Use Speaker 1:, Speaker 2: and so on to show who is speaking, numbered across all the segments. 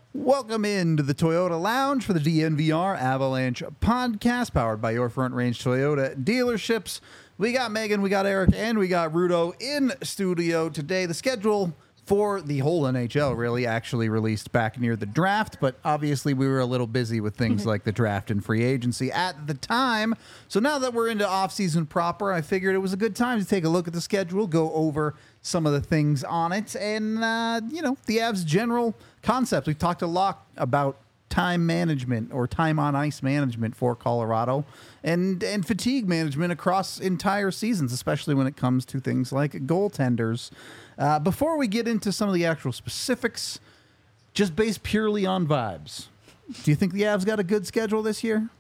Speaker 1: Welcome into the Toyota Lounge for the DNVR Avalanche podcast, powered by your Front Range Toyota dealerships. We got Megan, we got Eric, and we got Rudo in studio today. The schedule for the whole NHL really actually released back near the draft, but obviously we were a little busy with things like the draft and free agency at the time. So now that we're into off-season proper, I figured it was a good time to take a look at the schedule, go over some of the things on it, and, the Avs' general concept. We've talked a lot about time management or time on ice management for Colorado and fatigue management across entire seasons, especially when it comes to things like goaltenders. Before we get into some of the actual specifics, just based purely on vibes, do you think the Avs got a good schedule this year?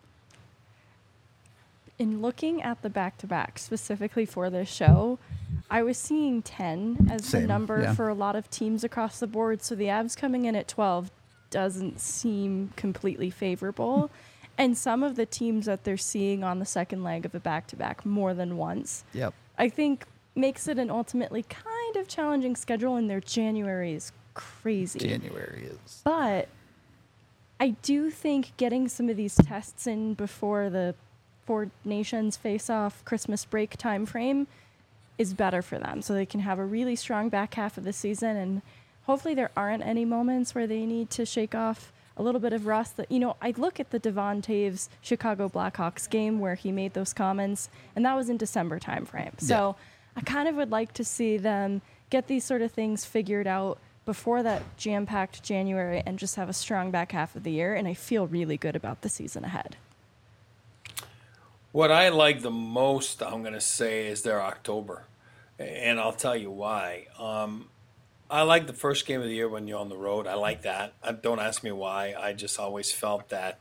Speaker 2: In looking at the back-to-back specifically for this show, I was seeing 10 as the number for a lot of teams across the board. So the Avs coming in at 12 doesn't seem completely favorable. And some of the teams that they're seeing on the second leg of a back-to-back more than once, I think makes it an ultimately kind of challenging schedule, and their January is crazy. But I do think getting some of these tests in before the Four Nations face-off Christmas break time frame is better for them, so they can have a really strong back half of the season, and hopefully there aren't any moments where they need to shake off a little bit of rust. That, I look at the Devon Toews Chicago Blackhawks game where he made those comments, and that was in December time frame. So I kind of would like to see them get these sort of things figured out before that jam-packed January and just have a strong back half of the year, and I feel really good about the season ahead.
Speaker 3: What I like the most, I'm going to say, is their October. And I'll tell you why. I like the first game of the year when you're on the road. I like that. Don't ask me why. I just always felt that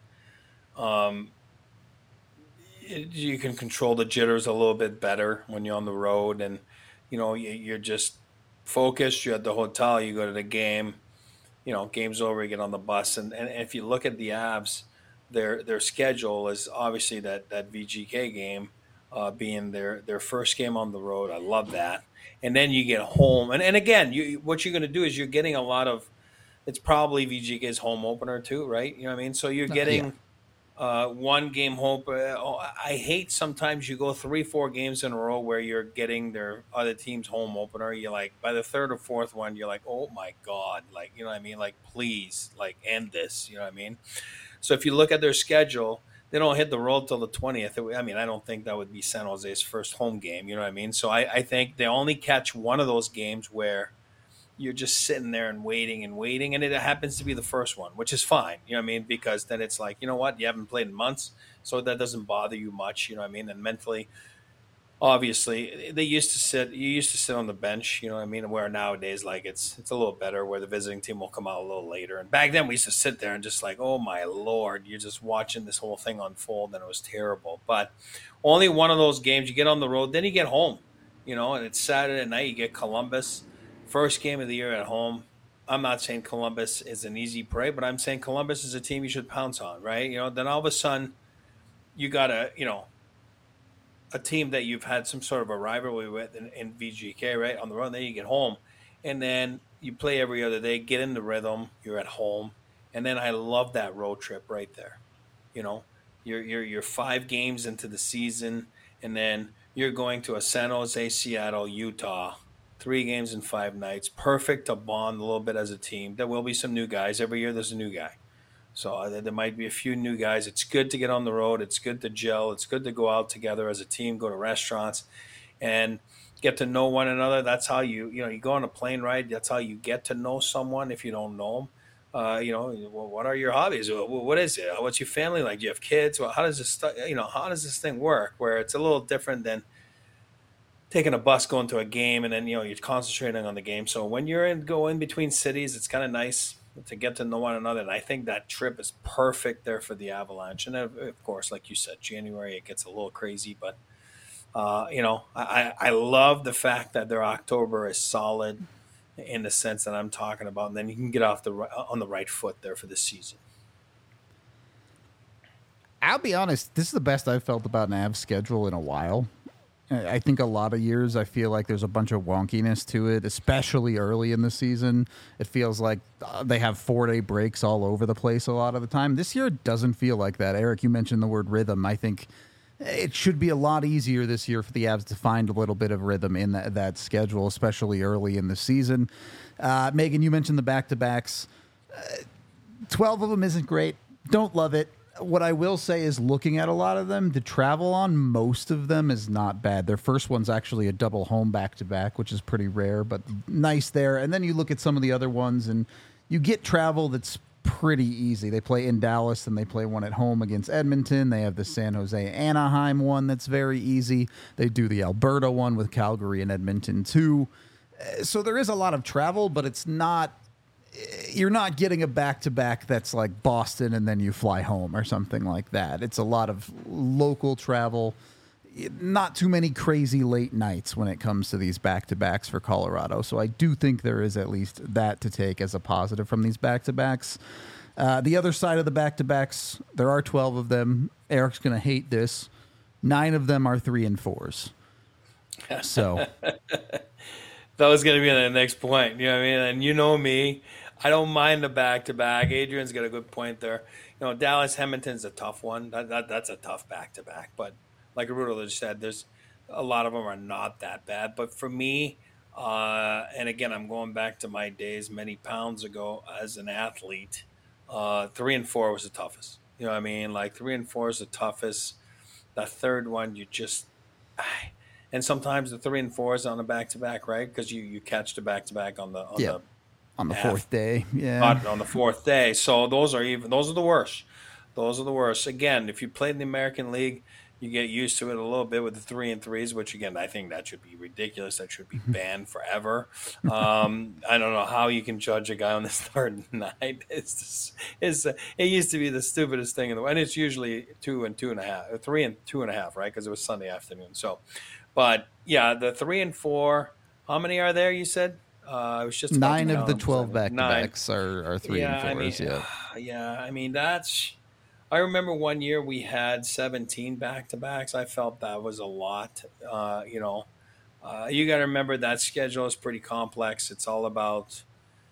Speaker 3: you can control the jitters a little bit better when you're on the road. And, you're just focused. You're at the hotel. You go to the game. Game's over. You get on the bus. And if you look at the Avs, their schedule is obviously that VGK game being their first game on the road. I love that. And then you get home. And again, what you're going to do is you're getting a lot of – it's probably VGK's home opener too, right? You know what I mean? So you're getting one game home. I hate sometimes you go 3-4 games in a row where you're getting their other team's home opener. You're like, by the third or fourth one, you're like, oh, my God. Like, you know what I mean? Like, please, like, end this. You know what I mean? So if you look at their schedule, they don't hit the road till the 20th. I don't think that would be San Jose's first home game. You know what I mean? So I think they only catch one of those games where you're just sitting there and waiting, and it happens to be the first one, which is fine. You know what I mean? Because then it's like, you know what? You haven't played in months, so that doesn't bother you much. You know what I mean? And mentally, obviously, you used to sit on the bench, you know what I mean? Where nowadays, like, it's a little better where the visiting team will come out a little later. And back then we used to sit there and just like, oh my Lord, you're just watching this whole thing unfold, and it was terrible. But only one of those games, you get on the road, then you get home, and it's Saturday night, you get Columbus, first game of the year at home. I'm not saying Columbus is an easy prey, but I'm saying Columbus is a team you should pounce on, right? Then all of a sudden you got to, a team that you've had some sort of a rivalry with in VGK, right, on the road. Then you get home, and then you play every other day, get in the rhythm, you're at home, and then I love that road trip right there. You're 5 games into the season, and then you're going to a San Jose, Seattle, Utah, 3 games in 5 nights, perfect to bond a little bit as a team. There will be some new guys. Every year there's a new guy. So there might be a few new guys. It's good to get on the road. It's good to gel. It's good to go out together as a team, go to restaurants, and get to know one another. That's how you go on a plane ride. That's how you get to know someone if you don't know them. What are your hobbies? What is it? What's your family like? Do you have kids? Well, how does this thing work? Where it's a little different than taking a bus, going to a game, and then, you're concentrating on the game. So when you're going between cities, it's kind of nice to get to know one another. And I think that trip is perfect there for the Avalanche. And of course, like you said, January, it gets a little crazy, but I love the fact that their October is solid in the sense that I'm talking about. And then you can get off on the right foot there for this season.
Speaker 1: I'll be honest, this is the best I've felt about an Avs schedule in a while. I think a lot of years I feel like there's a bunch of wonkiness to it, especially early in the season. It feels like they have 4-day breaks all over the place a lot of the time. This year it doesn't feel like that. Eric, you mentioned the word rhythm. I think it should be a lot easier this year for the Avs to find a little bit of rhythm in that schedule, especially early in the season. Megan, you mentioned the back-to-backs. 12 of them isn't great. Don't love it. What I will say is, looking at a lot of them, the travel on most of them is not bad. Their first one's actually a double home back-to-back, which is pretty rare, but nice there. And then you look at some of the other ones, and you get travel that's pretty easy. They play in Dallas, and they play one at home against Edmonton. They have the San Jose Anaheim one that's very easy. They do the Alberta one with Calgary and Edmonton too. So there is a lot of travel, but it's not... You're not getting a back-to-back that's like Boston and then you fly home or something like that. It's a lot of local travel, not too many crazy late nights when it comes to these back-to-backs for Colorado. So I do think there is at least that to take as a positive from these back-to-backs. The other side of the back-to-backs, there are 12 of them. Eric's going to hate this. 9 of them are 3 and 4s. So...
Speaker 3: That was going to be the next point. You know what I mean? And you know me. I don't mind the back-to-back. Adrian's got a good point there. You know, Dallas Edmonton's a tough one. That's a tough back-to-back. But like Rudo just said, there's a lot of them are not that bad. But for me, and again, I'm going back to my days many pounds ago as an athlete, 3 and 4 was the toughest. You know what I mean? Like 3 and 4 is the toughest. The third one, you just... And sometimes the 3 and 4s on a back-to-back, right? Because you catch the back-to-back on the
Speaker 1: fourth day,
Speaker 3: on the fourth day. So those are the worst. Those are the worst. Again, if you played in the American League, you get used to it a little bit with the 3 and 3s, which again I think that should be ridiculous. That should be banned forever. I don't know how you can judge a guy on his third night. It used to be the stupidest thing in the world, and it's usually 2 and 2.5, 3 and 2.5, right? Because it was Sunday afternoon. So. But yeah, the 3 and 4. How many are there? You said it was just
Speaker 1: 9 of the 12 back-to-backs are 3 and 4s.
Speaker 3: I mean that's. I remember one year we had 17 back-to-backs. I felt that was a lot. You got to remember that schedule is pretty complex. It's all about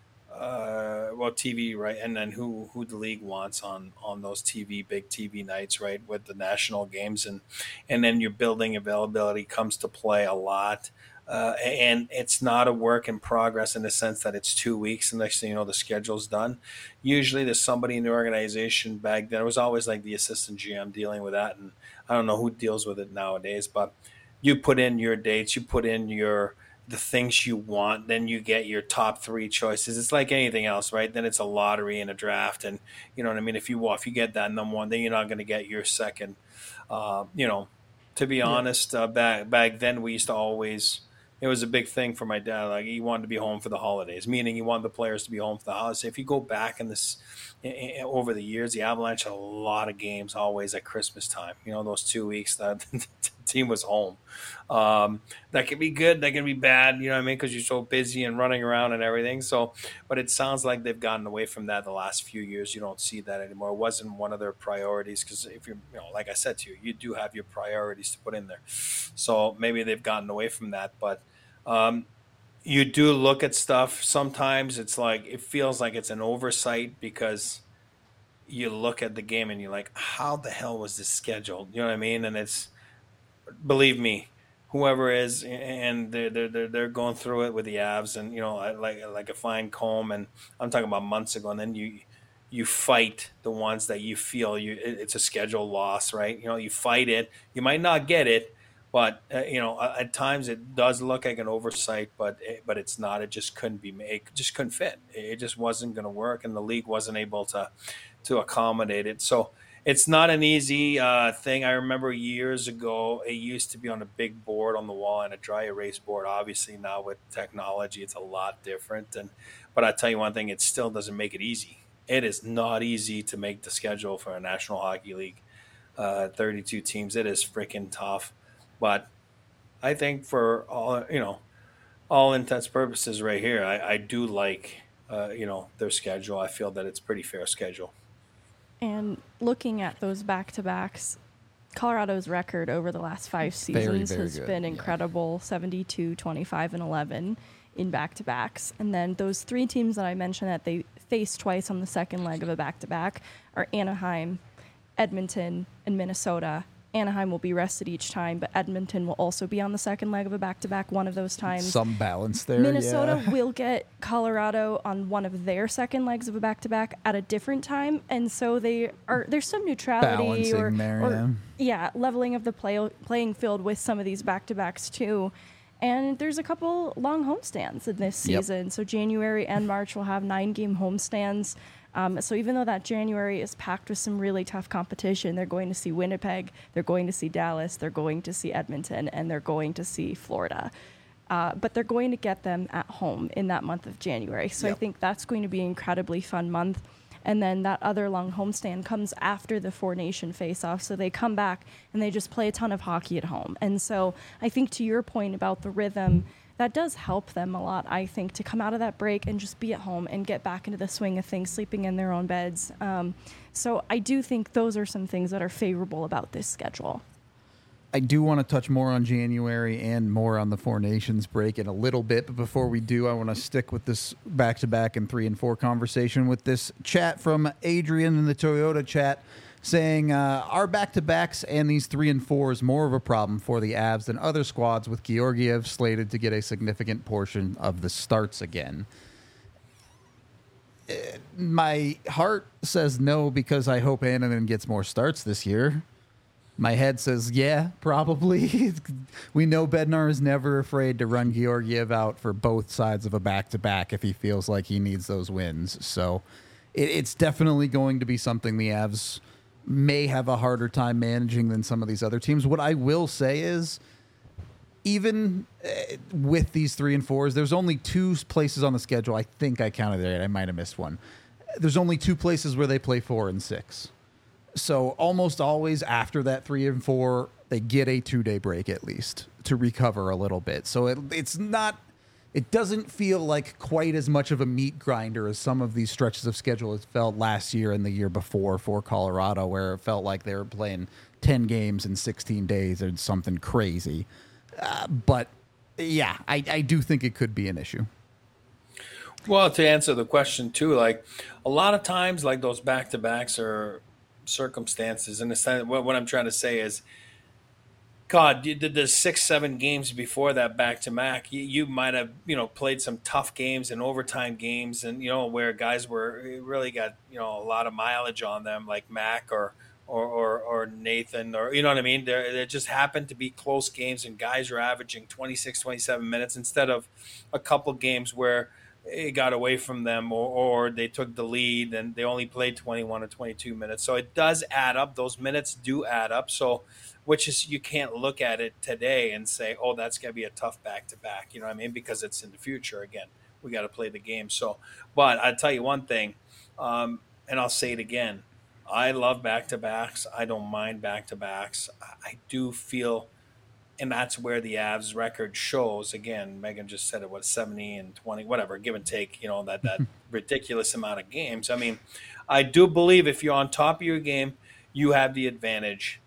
Speaker 3: TV, right? And then who the league wants on those big TV nights, right? With the national games and then your building availability comes to play a lot. And it's not a work in progress in the sense that it's 2 weeks and next thing you know, the schedule's done. Usually there's somebody in the organization back then. It was always like the assistant GM dealing with that. And I don't know who deals with it nowadays, but you put in your dates, you put in the things you want, then you get your top 3 choices. It's like anything else, right? Then it's a lottery and a draft. And you know what I mean? If you get that number 1, then you're not going to get your second. To be honest, back then we used to always, it was a big thing for my dad. Like he wanted to be home for the holidays, meaning he wanted the players to be home for the holidays. If you go back in this over the years, the Avalanche had a lot of games always at Christmas time. You know, those 2 weeks that the team was home. That can be good, that can be bad. You know what I mean? Because you're so busy and running around and everything. So, but it sounds like they've gotten away from that the last few years. You don't see that anymore. It wasn't one of their priorities because if you're, like I said to you, you do have your priorities to put in there. So maybe they've gotten away from that, but. You do look at stuff. Sometimes it's like it feels like it's an oversight because you look at the game and you're like, how the hell was this scheduled? You know what I mean? And it's, believe me, whoever is, and they're going through it with the Avs, and like a fine comb. And I'm talking about months ago. And then you fight the ones that you feel it's a schedule loss, right? You fight it. You might not get it. But at times it does look like an oversight, but it's not. It just couldn't be made. It just couldn't fit. It just wasn't going to work, and the league wasn't able to accommodate it. So it's not an easy thing. I remember years ago, it used to be on a big board on the wall and a dry erase board. Obviously, now with technology, it's a lot different. But I tell you one thing, it still doesn't make it easy. It is not easy to make the schedule for a National Hockey League, 32 teams. It is freaking tough. But I think for all intents and purposes right here, I do like, their schedule. I feel that it's a pretty fair schedule.
Speaker 2: And looking at those back-to-backs, Colorado's record over the last 5 seasons
Speaker 1: very
Speaker 2: has
Speaker 1: good.
Speaker 2: been incredible, 72, 25, and 11 in back-to-backs. And then those 3 teams that I mentioned that they faced twice on the second leg of a back-to-back are Anaheim, Edmonton, and Minnesota. Anaheim will be rested each time, but Edmonton will also be on the second leg of a back-to-back one of those times.
Speaker 1: Some balance there.
Speaker 2: Minnesota will get Colorado on one of their second legs of a back-to-back at a different time, and so there's some neutrality leveling of the playing field with some of these back-to-backs too. And there's a couple long homestands in this season. So January and March will have 9-game homestands. So even though that January is packed with some really tough competition, they're going to see Winnipeg, they're going to see Dallas, they're going to see Edmonton, and they're going to see Florida. But they're going to get them at home in that month of January. So I think that's going to be an incredibly fun month. And then that other long homestand comes after the four-nation face-off. So they come back and they just play a ton of hockey at home. And so I think to your point about the rhythm, that does help them a lot, I think, to come out of that break and just be at home and get back into the swing of things, sleeping in their own beds. So I do think those are some things that are favorable about this schedule.
Speaker 1: I do want to touch more on January and more on the Four Nations break in a little bit. But before we do, I want to stick with this back-to-back and 3 and 4 conversation with this chat from Adrian in the Toyota chat saying, our back-to-backs and these 3 and 4 is more of a problem for the Avs than other squads, with Georgiev slated to get a significant portion of the starts again. My heart says no, because I hope Annunen gets more starts this year. My head says, yeah, probably. We know Bednar is never afraid to run Georgiev out for both sides of a back-to-back if he feels like he needs those wins. So it's definitely going to be something the Avs may have a harder time managing than some of these other teams. What I will say is, even with these 3 and 4s, there's only 2 places on the schedule. I think I counted it. I might have missed one. There's only 2 places where they play 4 and 6. So almost always after that 3 and 4, they get a 2-day break at least to recover a little bit. So it doesn't feel like quite as much of a meat grinder as some of these stretches of schedule has felt last year and the year before for Colorado, where it felt like they were playing 10 games in 16 days or something crazy. But yeah, I do think it could be an issue.
Speaker 3: Well, to answer the question too, like a lot of times, like those back-to-backs are circumstances. In the sense, what I'm trying to say is, God, you did the 6-7 games before that back-to-back. You might have, played some tough games and overtime games, and where guys really got a lot of mileage on them, like Mac or Nathan, or you know what I mean. There just happened to be close games, and guys are averaging 26, 27 minutes instead of a couple games where it got away from them, or they took the lead and they only played 21 or 22 minutes. So it does add up. Those minutes do add up. So, which is, you can't look at it today and say, oh, that's going to be a tough back-to-back. You know what I mean? Because it's in the future. Again, we got to play the game. So, but I'll tell you one thing, and I'll say it again. I love back-to-backs. I don't mind back-to-backs. I do feel, and that's where the Avs record shows. Again, Megan just said it was 70 and 20, whatever, give and take, that ridiculous amount of games. I mean, I do believe if you're on top of your game, you have the advantage.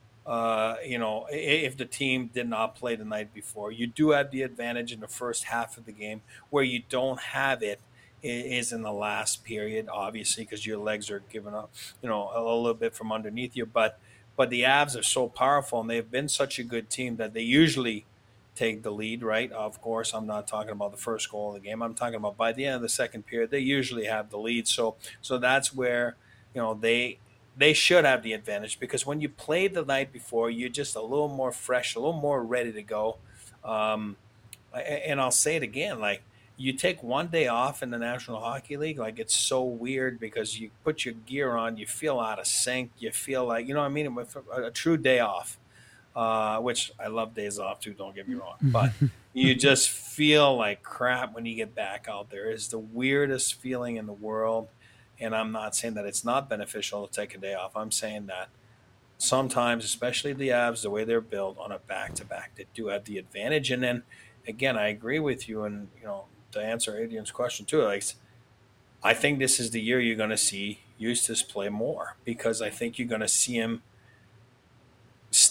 Speaker 3: If the team did not play the night before, you do have the advantage in the first half of the game. Where you don't have it is in the last period, obviously, because your legs are giving up, a little bit from underneath you. But the Avs are so powerful, and they've been such a good team that they usually take the lead, right? Of course, I'm not talking about the first goal of the game. I'm talking about by the end of the second period, they usually have the lead. So that's where, they should have the advantage, because when you play the night before, you're just a little more fresh, a little more ready to go. And I'll say it again, like, you take one day off in the National Hockey League, like, it's so weird because you put your gear on, you feel out of sync, you feel like, you know what I mean, with a true day off, which I love days off too, don't get me wrong, but you just feel like crap when you get back out there. It's the weirdest feeling in the world, and I'm not saying that it's not beneficial to take a day off. I'm saying that sometimes, especially the Avs, the way they're built on a back-to-back, they do have the advantage. And then, again, I agree with you, and, to answer Adrian's question too, like, I think this is the year you're going to see Eustace play more, because I think you're going to see him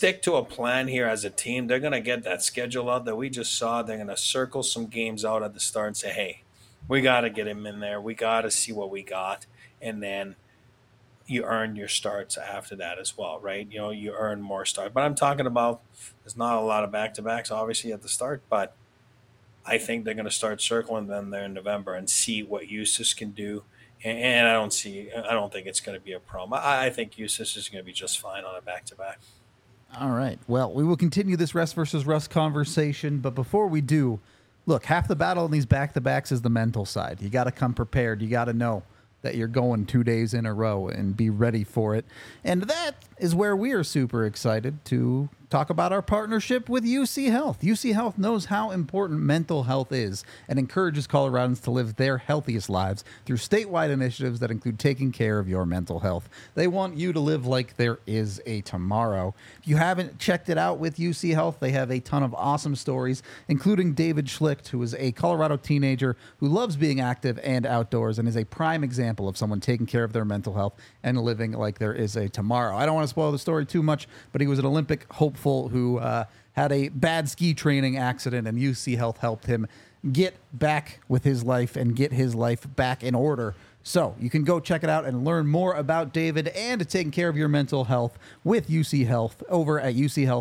Speaker 3: stick to a plan here as a team, they're going to get that schedule out that we just saw. They're going to circle some games out at the start and say, hey, we got to get him in there. We got to see what we got. And then you earn your starts after that as well, right? You earn more starts. But I'm talking about there's not a lot of back-to-backs, obviously, at the start. But I think they're going to start circling them there in November and see what Justus can do. And I don't think it's going to be a problem. I think Justus is going to be just fine on a back-to-back.
Speaker 1: All right. Well, we will continue this rest versus rust conversation. But before we do, look, half the battle in these back-to-backs is the mental side. You got to come prepared. You got to know that you're going 2 days in a row and be ready for it. And that is where we are super excited to talk about our partnership with UC Health. UC Health knows how important mental health is and encourages Coloradans to live their healthiest lives through statewide initiatives that include taking care of your mental health. They want you to live like there is a tomorrow. If you haven't checked it out with UC Health, they have a ton of awesome stories, including David Schlicht, who is a Colorado teenager who loves being active and outdoors and is a prime example of someone taking care of their mental health and living like there is a tomorrow. I don't want to spoil the story too much, but he was an Olympic hopeful who had a bad ski training accident, and UC Health helped him get back with his life and get his life back in order. So you can go check it out and learn more about David and taking care of your mental health with UC Health over at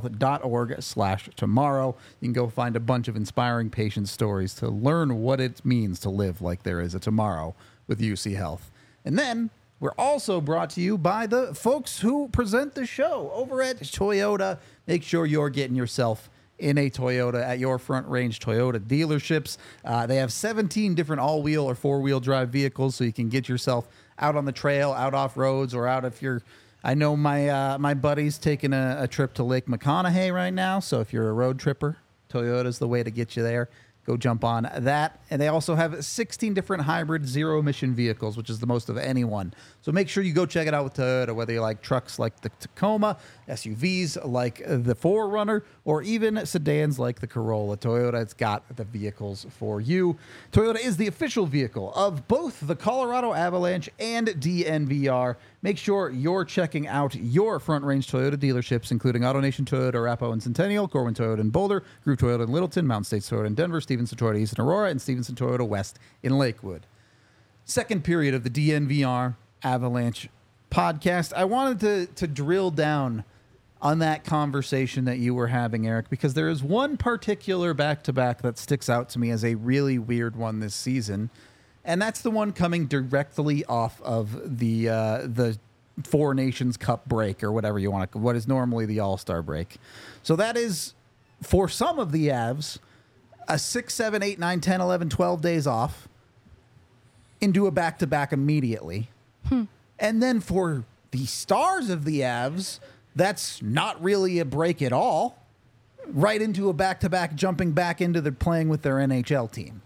Speaker 1: uchealth.org/tomorrow. You can go find a bunch of inspiring patient stories to learn what it means to live like there is a tomorrow with UC Health. And then we're also brought to you by the folks who present the show over at Toyota. Make sure you're getting yourself in a Toyota at your Front Range Toyota dealerships. They have 17 different all-wheel or four-wheel drive vehicles, so you can get yourself out on the trail, out off roads, or out if you're... I know my buddy's taking a trip to Lake McConaughey right now, so if you're a road tripper, Toyota's the way to get you there. Go jump on that. And they also have 16 different hybrid zero-emission vehicles, which is the most of anyone. So make sure you go check it out with Toyota, whether you like trucks like the Tacoma, SUVs like the 4Runner, or even sedans like the Corolla. Toyota has got the vehicles for you. Toyota is the official vehicle of both the Colorado Avalanche and DNVR. Make sure you're checking out your Front Range Toyota dealerships, including AutoNation Toyota, Arapahoe and Centennial, Corwin Toyota in Boulder, Groove Toyota in Littleton, Mountain States Toyota in Denver, Stevenson Toyota East in Aurora, and Stevenson Toyota West in Lakewood. Second period of the DNVR Avalanche podcast. I wanted to drill down on that conversation that you were having, Eric, because there is one particular back-to-back that sticks out to me as a really weird one this season. And that's the one coming directly off of the Four Nations Cup break, or whatever you want to, what is normally the All-Star break. So that is, for some of the Avs, a 6, 7, 8, 9, 10, 11, 12 days off into a back-to-back immediately. And then for the stars of the Avs, that's not really a break at all. Right into a back-to-back, jumping back into the playing with their NHL team.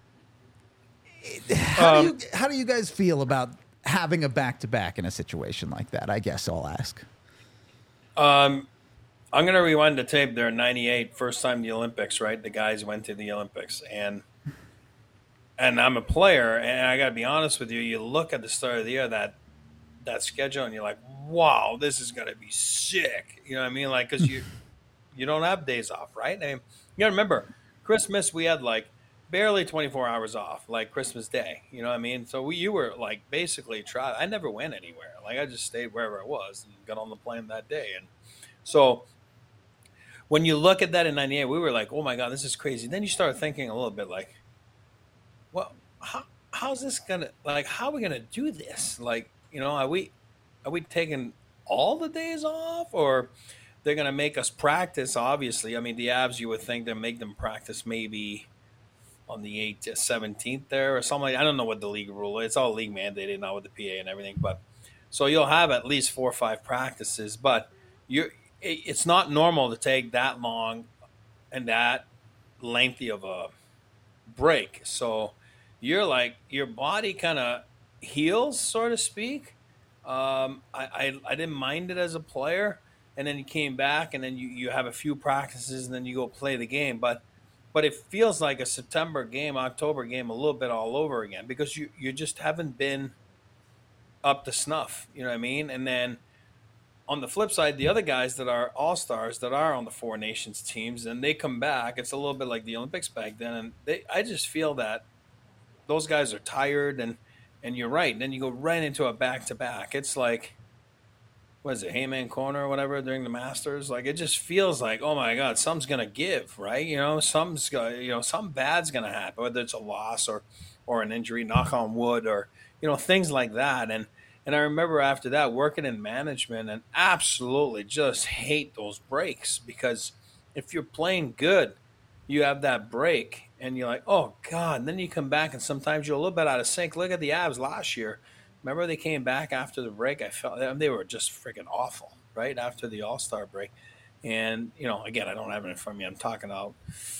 Speaker 1: How do you guys feel about having a back-to-back in a situation like that? I guess I'll ask.
Speaker 3: I'm going to rewind the tape there in 98, first time the Olympics, right? The guys went to the Olympics. And I'm a player, and I got to be honest with you, you look at the start of the year, that schedule, and you're like, wow, this is going to be sick. You know what I mean? Like, because you don't have days off, right? I mean, you got to remember, Christmas, we had like barely 24 hours off, like Christmas Day. You know what I mean? So you were like basically I never went anywhere. Like I just stayed wherever I was and got on the plane that day. And so when you look at that in 98, we were like, oh my God, this is crazy. Then you start thinking a little bit like, well, how's this going to, like, how are we going to do this? Like, you know, are we taking all the days off, or they're going to make us practice? Obviously, I mean, the Avs, you would think they make them practice maybe on the 8th to 17th there or something. I don't know what the league rule is. It's all league mandated now with the PA and everything. But so you'll have at least 4 or 5 practices, but it's not normal to take that long and that lengthy of a break. So you're like, your body kind of heals, so to speak. I didn't mind it as a player, and then you came back, and then you have a few practices, and then you go play the game. But it feels like a September game, October game, a little bit all over again, because you just haven't been up to snuff. You know what I mean? And then on the flip side, the other guys that are all-stars that are on the Four Nations teams, and they come back, it's a little bit like the Olympics back then. And I just feel that those guys are tired, and you're right. And then you go right into a back-to-back. It's like, what is it, Hayman Corner or whatever during the Masters? Like, it just feels like, oh my God, something's gonna give, right? Something bad's gonna happen, whether it's a loss or an injury, knock on wood, or things like that. And I remember after that working in management and absolutely just hate those breaks, because if you're playing good, you have that break and you're like, oh God, and then you come back and sometimes you're a little bit out of sync. Look at the Avs last year. Remember they came back after the break? I felt they were just freaking awful, right, after the All-Star break. And, again, I don't have it in front of me. I'm talking out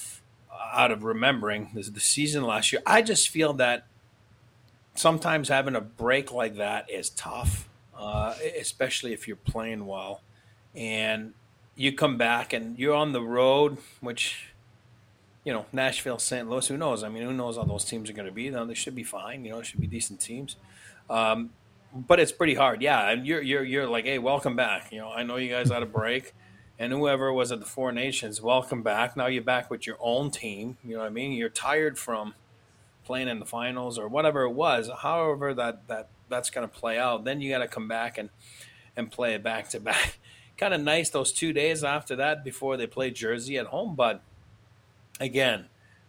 Speaker 3: of remembering the season last year. I just feel that sometimes having a break like that is tough, especially if you're playing well. And you come back and you're on the road, which, Nashville, St. Louis, who knows? I mean, who knows how those teams are going to be? They should be fine. It should be decent teams. But it's pretty hard. Yeah, and you're like, hey, welcome back. I know you guys had a break. And whoever was at the Four Nations, welcome back. Now you're back with your own team. You know what I mean? You're tired from playing in the finals or whatever it was, however that's going to play out. Then you got to come back and play it back to back. Kind of nice those 2 days after that before they play Jersey at home. But again,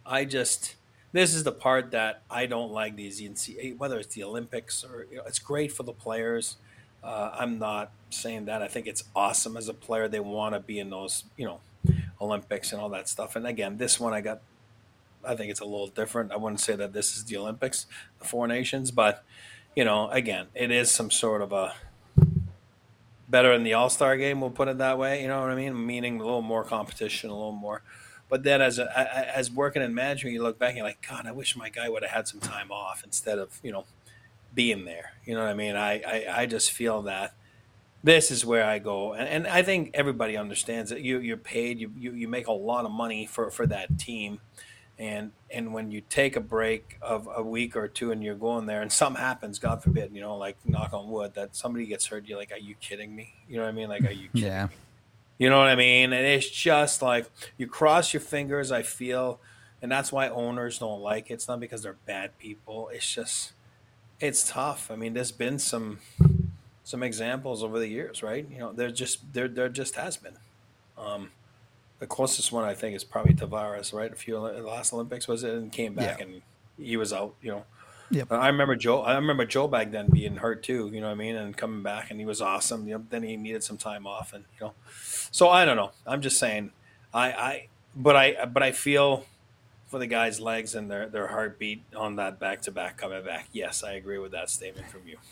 Speaker 3: this is the part that I don't like, these whether it's the Olympics or it's great for the players. I'm not saying that. I think it's awesome as a player. They want to be in those Olympics and all that stuff. And again, this one I think it's a little different. I wouldn't say that this is the Olympics, the Four Nations, but again, it is some sort of a better in the All-Star game. We'll put it that way. You know what I mean? Meaning a little more competition, a little more. But then as working in management, you look back and you're like, God, I wish my guy would have had some time off instead of, being there. You know what I mean? I just feel that this is where I go. And I think everybody understands that you're paid, you make a lot of money for that team. And when you take a break of a week or two and you're going there and something happens, God forbid, like knock on wood, that somebody gets hurt, you're like, are you kidding me? You know what I mean? Like, are you kidding me? You know what I mean? And it's just like you cross your fingers, I feel, and that's why owners don't like it. It's not because they're bad people. It's just, it's tough. I mean, there's been some examples over the years, right? There just has been. The closest one I think is probably Tavares, right? The last Olympics was it, and came back and he was out. Yep. I remember Joe back then being hurt too. You know what I mean, and coming back, and he was awesome. Then he needed some time off, and So I don't know. I'm just saying. But I feel for the guys' legs and their heartbeat on that back-to-back coming back. Yes, I agree with that statement from you.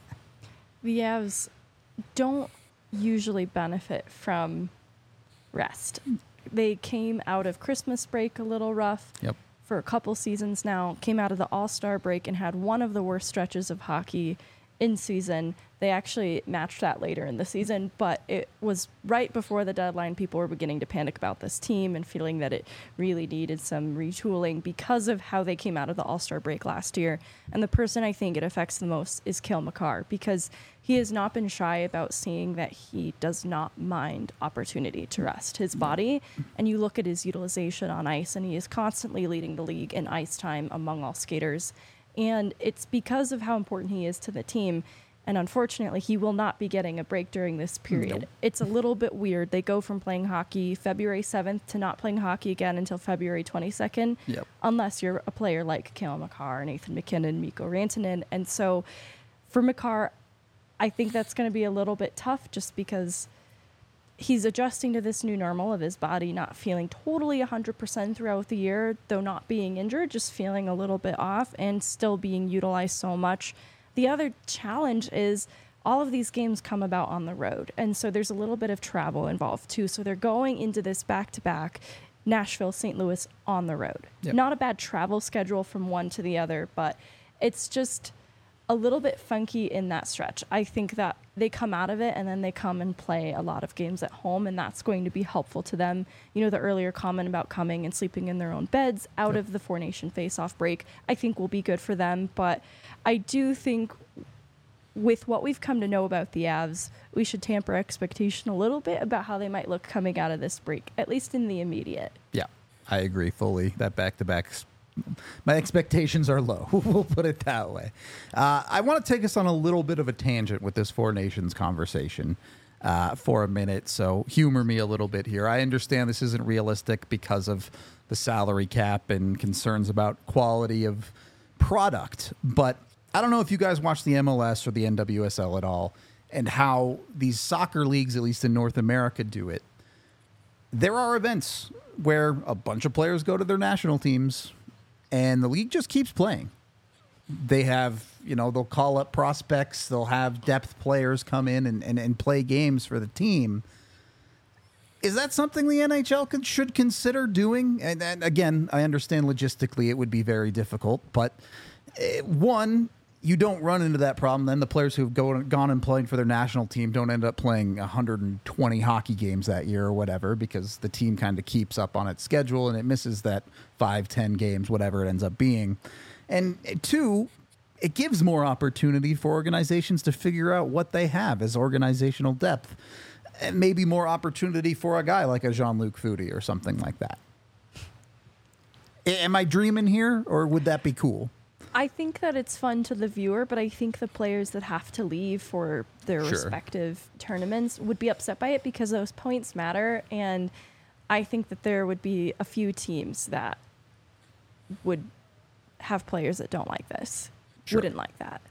Speaker 2: The Avs don't usually benefit from rest. They came out of Christmas break a little rough.
Speaker 1: Yep.
Speaker 2: For a couple seasons now, came out of the All-Star break and had one of the worst stretches of hockey in season. They actually matched that later in the season, but it was right before the deadline. People were beginning to panic about this team and feeling that it really needed some retooling because of how they came out of the All-Star break last year. And the person I think it affects the most is Cale Makar, because he has not been shy about saying that he does not mind opportunity to rest his body. And you look at his utilization on ice, and he is constantly leading the league in ice time among all skaters. And it's because of how important he is to the team. And unfortunately, he will not be getting a break during this period. Nope. It's a little bit weird. They go from playing hockey February 7th to not playing hockey again until February 22nd, unless you're a player like Cale Makar, Nathan MacKinnon, Mikko Rantanen. And so for Makar, I think that's going to be a little bit tough just because he's adjusting to this new normal of his body not feeling totally 100% throughout the year, though not being injured, just feeling a little bit off and still being utilized so much. The other challenge is all of these games come about on the road, and so there's a little bit of travel involved too. So they're going into this back-to-back Nashville, St. Louis on the road. Yep. Not a bad travel schedule from one to the other, but it's just a little bit funky in that stretch. I think that they come out of it and then they come and play a lot of games at home, and that's going to be helpful to them. You know, the earlier comment about coming and sleeping in their own beds out of the Four Nation face-off break, I think will be good for them. But I do think with what we've come to know about the Avs, we should temper expectation a little bit about how they might look coming out of this break, at least in the immediate.
Speaker 1: Yeah, I agree fully. That back-to-backs, my expectations are low. We'll put it that way. I want to take us on a little bit of a tangent with this Four Nations conversation for a minute, so humor me a little bit here. I understand this isn't realistic because of the salary cap and concerns about quality of product, but I don't know if you guys watch the MLS or the NWSL at all and how these soccer leagues, at least in North America, do it. There are events where a bunch of players go to their national teams and the league just keeps playing. They have, they'll call up prospects. They'll have depth players come in and play games for the team. Is that something the NHL should consider doing? And again, I understand logistically it would be very difficult, but one, you don't run into that problem. Then the players who've gone and played for their national team don't end up playing 120 hockey games that year or whatever, because the team kind of keeps up on its schedule and it misses that 5-10 games, whatever it ends up being. And two, it gives more opportunity for organizations to figure out what they have as organizational depth. And maybe more opportunity for a guy like a Jean-Luc Foudy or something like that. Am I dreaming here, or would that be cool?
Speaker 2: I think that it's fun to the viewer, but I think the players that have to leave for their respective tournaments would be upset by it because those points matter. And I think that there would be a few teams that would have players that don't like this, wouldn't like that.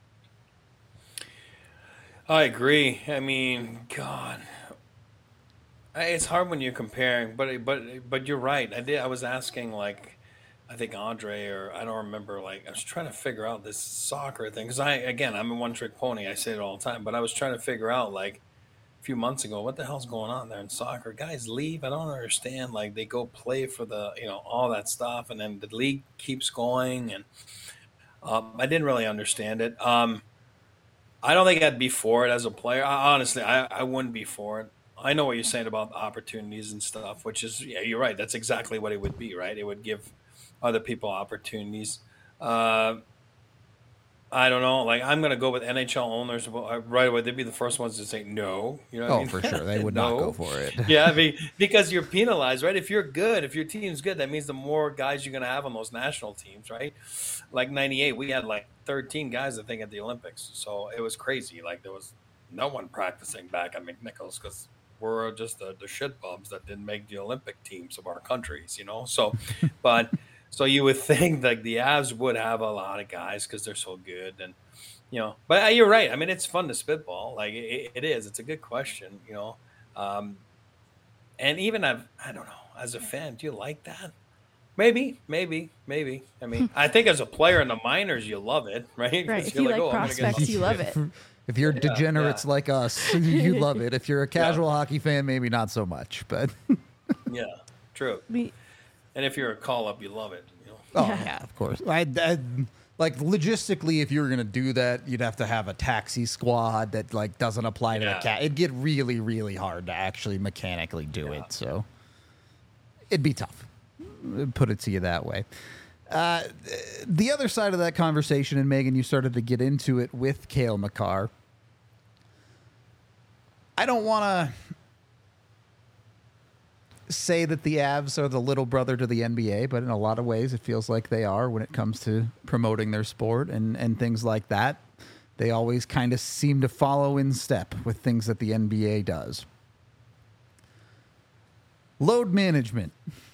Speaker 3: I agree. I mean, God, it's hard when you're comparing, but you're right. I was asking, like, I think Andre, or I don't remember, like, I was trying to figure out this soccer thing. Because I'm a one-trick pony. I say it all the time. But I was trying to figure out, like, a few months ago, what the hell's going on there in soccer? Guys leave. I don't understand. Like, they go play for the, all that stuff. And then the league keeps going. And I didn't really understand it. I don't think I'd be for it as a player. Honestly, I wouldn't be for it. I know what you're saying about opportunities and stuff, which is, yeah, you're right. That's exactly what it would be, right? It would give other people opportunities. I don't know. Like, I'm going to go with NHL owners right away. They'd be the first ones to say no. You know what I mean?
Speaker 1: For sure. They would not go for it.
Speaker 3: Yeah, I mean, because you're penalized, right? If you're good, if your team's good, that means the more guys you're going to have on those national teams, right? Like 98, we had like 13 guys, I think, at the Olympics. So it was crazy. Like, there was no one practicing back at McNichols because we're just the shit bums that didn't make the Olympic teams of our countries, So, but... So you would think like the Avs would have a lot of guys because they're so good, and But you're right. I mean, it's fun to spitball. Like it is. It's a good question. And even I don't know. As a fan, do you like that? Maybe. I mean, I think as a player in the minors, you love it, right?
Speaker 2: Right. If you like prospects, you love it.
Speaker 1: If you're degenerates like us, you love it. If you're a casual hockey fan, maybe not so much. But
Speaker 3: yeah, true. And if you're a call-up, you love it.
Speaker 1: Oh, yeah, of course. Like, logistically, if you were going to do that, you'd have to have a taxi squad that, like, doesn't apply to the cat. It'd get really, really hard to actually mechanically do it. So it'd be tough. Put it to you that way. The other side of that conversation, and Megan, you started to get into it with Cale Makar. I don't want to say that the Avs are the little brother to the NBA, but in a lot of ways it feels like they are when it comes to promoting their sport and things like that. They always kind of seem to follow in step with things that the NBA does. Load management.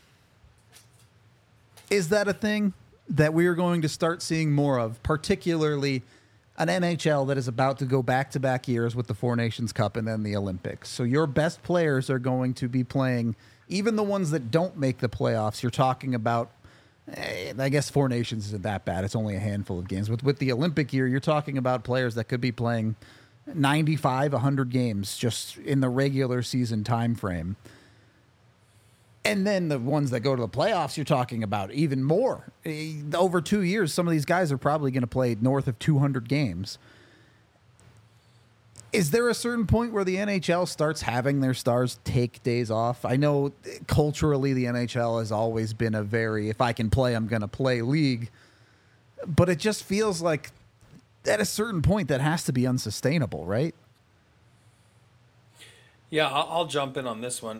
Speaker 1: Is that a thing that we are going to start seeing more of, particularly an NHL that is about to go back-to-back years with the Four Nations Cup and then the Olympics? So your best players are going to be playing, even the ones that don't make the playoffs. You're talking about, I guess Four Nations isn't that bad. It's only a handful of games. With the Olympic year, you're talking about players that could be playing 95, 100 games just in the regular season time frame. And then the ones that go to the playoffs, you're talking about even more. Over 2 years, some of these guys are probably going to play north of 200 games. Is there a certain point where the NHL starts having their stars take days off? I know culturally the NHL has always been a very, if I can play, I'm going to play league. But it just feels like at a certain point, that has to be unsustainable, right?
Speaker 3: Yeah, I'll jump in on this one.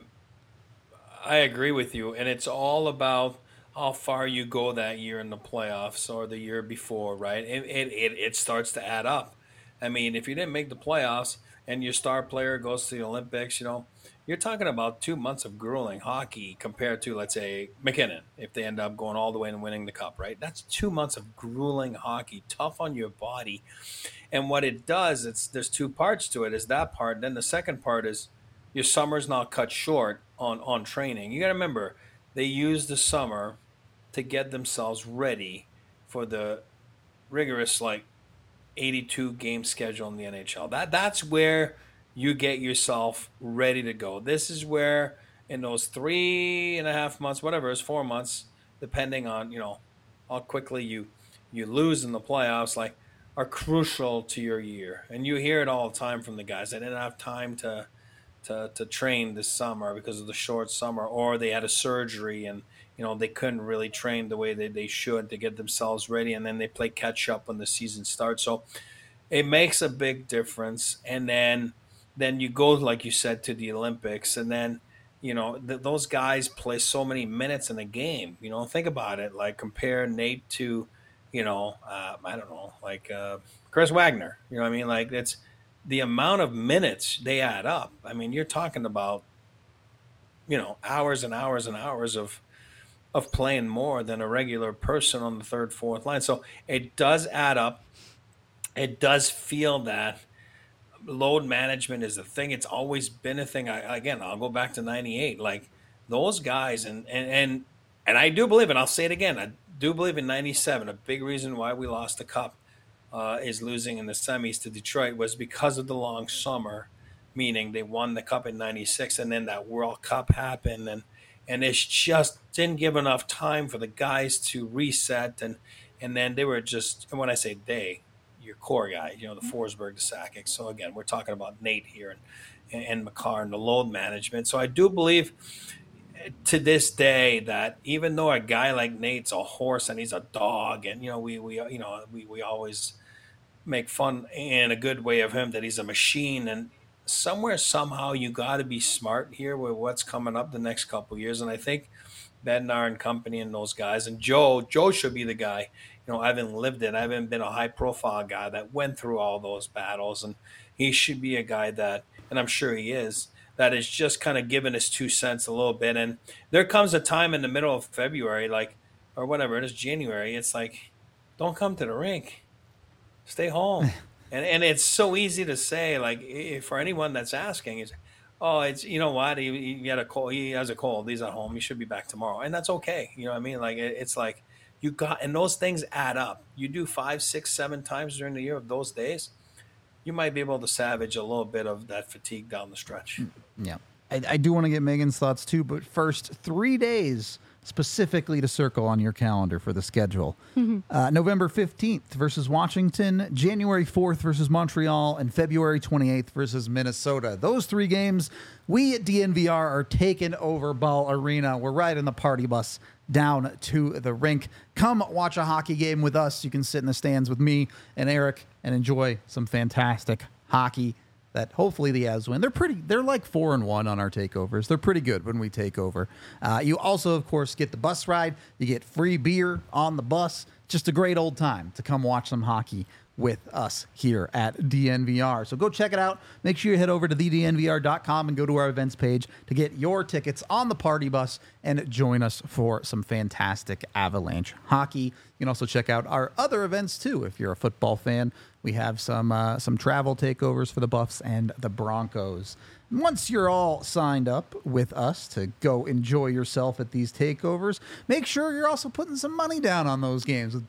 Speaker 3: I agree with you, and it's all about how far you go that year in the playoffs or the year before, right? It starts to add up. I mean, if you didn't make the playoffs and your star player goes to the Olympics, you're talking about 2 months of grueling hockey compared to, let's say, McKinnon, if they end up going all the way and winning the cup, right? That's 2 months of grueling hockey, tough on your body. And what it does, there's two parts to it, is that part. Then the second part is your summer's not cut short on training. You got to remember, they use the summer to get themselves ready for the rigorous, 82 game schedule in the NHL. That's where you get yourself ready to go. This is where, in those 3.5 months, whatever, it's 4 months, depending on how quickly you lose in the playoffs, are crucial to your year. And you hear it all the time from the guys. They didn't have time to train this summer because of the short summer, or they had a surgery and they couldn't really train the way they should to get themselves ready, and then they play catch up when the season starts. So it makes a big difference. And then you go, like you said, to the Olympics, and then those guys play so many minutes in a game. Think about it. Compare Nate to I don't know, Chris Wagner. You know what I mean? It's the amount of minutes they add up. I mean, you're talking about hours and hours and hours of playing more than a regular person on the third, fourth line. So it does add up. It does feel that load management is a thing. It's always been a thing. I'll go back to 98. Those guys, and I do believe, and I'll say it again, I do believe in 97. A big reason why we lost the cup is losing in the semis to Detroit was because of the long summer, meaning they won the cup in 96, and then that World Cup happened, and it just didn't give enough time for the guys to reset, and then they were just, and when I say they, your core guy, the Forsberg, the Sakic. So again, we're talking about Nate here and Makar and the load management. So I do believe to this day that even though a guy like Nate's a horse and he's a dog, and we always make fun in a good way of him that he's a machine, and somehow you got to be smart here with what's coming up the next couple of years. And I think Bednar and company and those guys, and Joe should be the guy. I haven't lived it. I haven't been a high profile guy that went through all those battles, and he should be a guy that, and I'm sure he is, that is just kind of giving his 2 cents a little bit. And there comes a time in the middle of February, or whatever it is, January, it's don't come to the rink, stay home. and it's so easy to say, for anyone that's asking, is, oh, it's, what, he had a cold, he has a cold, he's at home, he should be back tomorrow, and that's okay. You know what I mean? It's you got, and those things add up. You do 5, 6, 7 times during the year of those days, you might be able to salvage a little bit of that fatigue down the stretch.
Speaker 1: Yeah. I do want to get Megan's thoughts too, but first, 3 days specifically to circle on your calendar for the schedule. November 15th versus Washington, January 4th versus Montreal, and February 28th versus Minnesota. Those 3 games, we at DNVR are taking over Ball Arena. We're riding the party bus down to the rink. Come watch a hockey game with us. You can sit in the stands with me and Eric and enjoy some fantastic hockey that hopefully the Avs win. They're 4-1 on our takeovers. They're pretty good when we take over. You also, of course, get the bus ride. You get free beer on the bus. Just a great old time to come watch some hockey with us here at DNVR. So go check it out. Make sure you head over to thednvr.com and go to our events page to get your tickets on the party bus and join us for some fantastic Avalanche hockey. You can also check out our other events too. If you're a football fan, we have some travel takeovers for the Buffs and the Broncos. Once you're all signed up with us to go enjoy yourself at these takeovers, make sure you're also putting some money down on those games with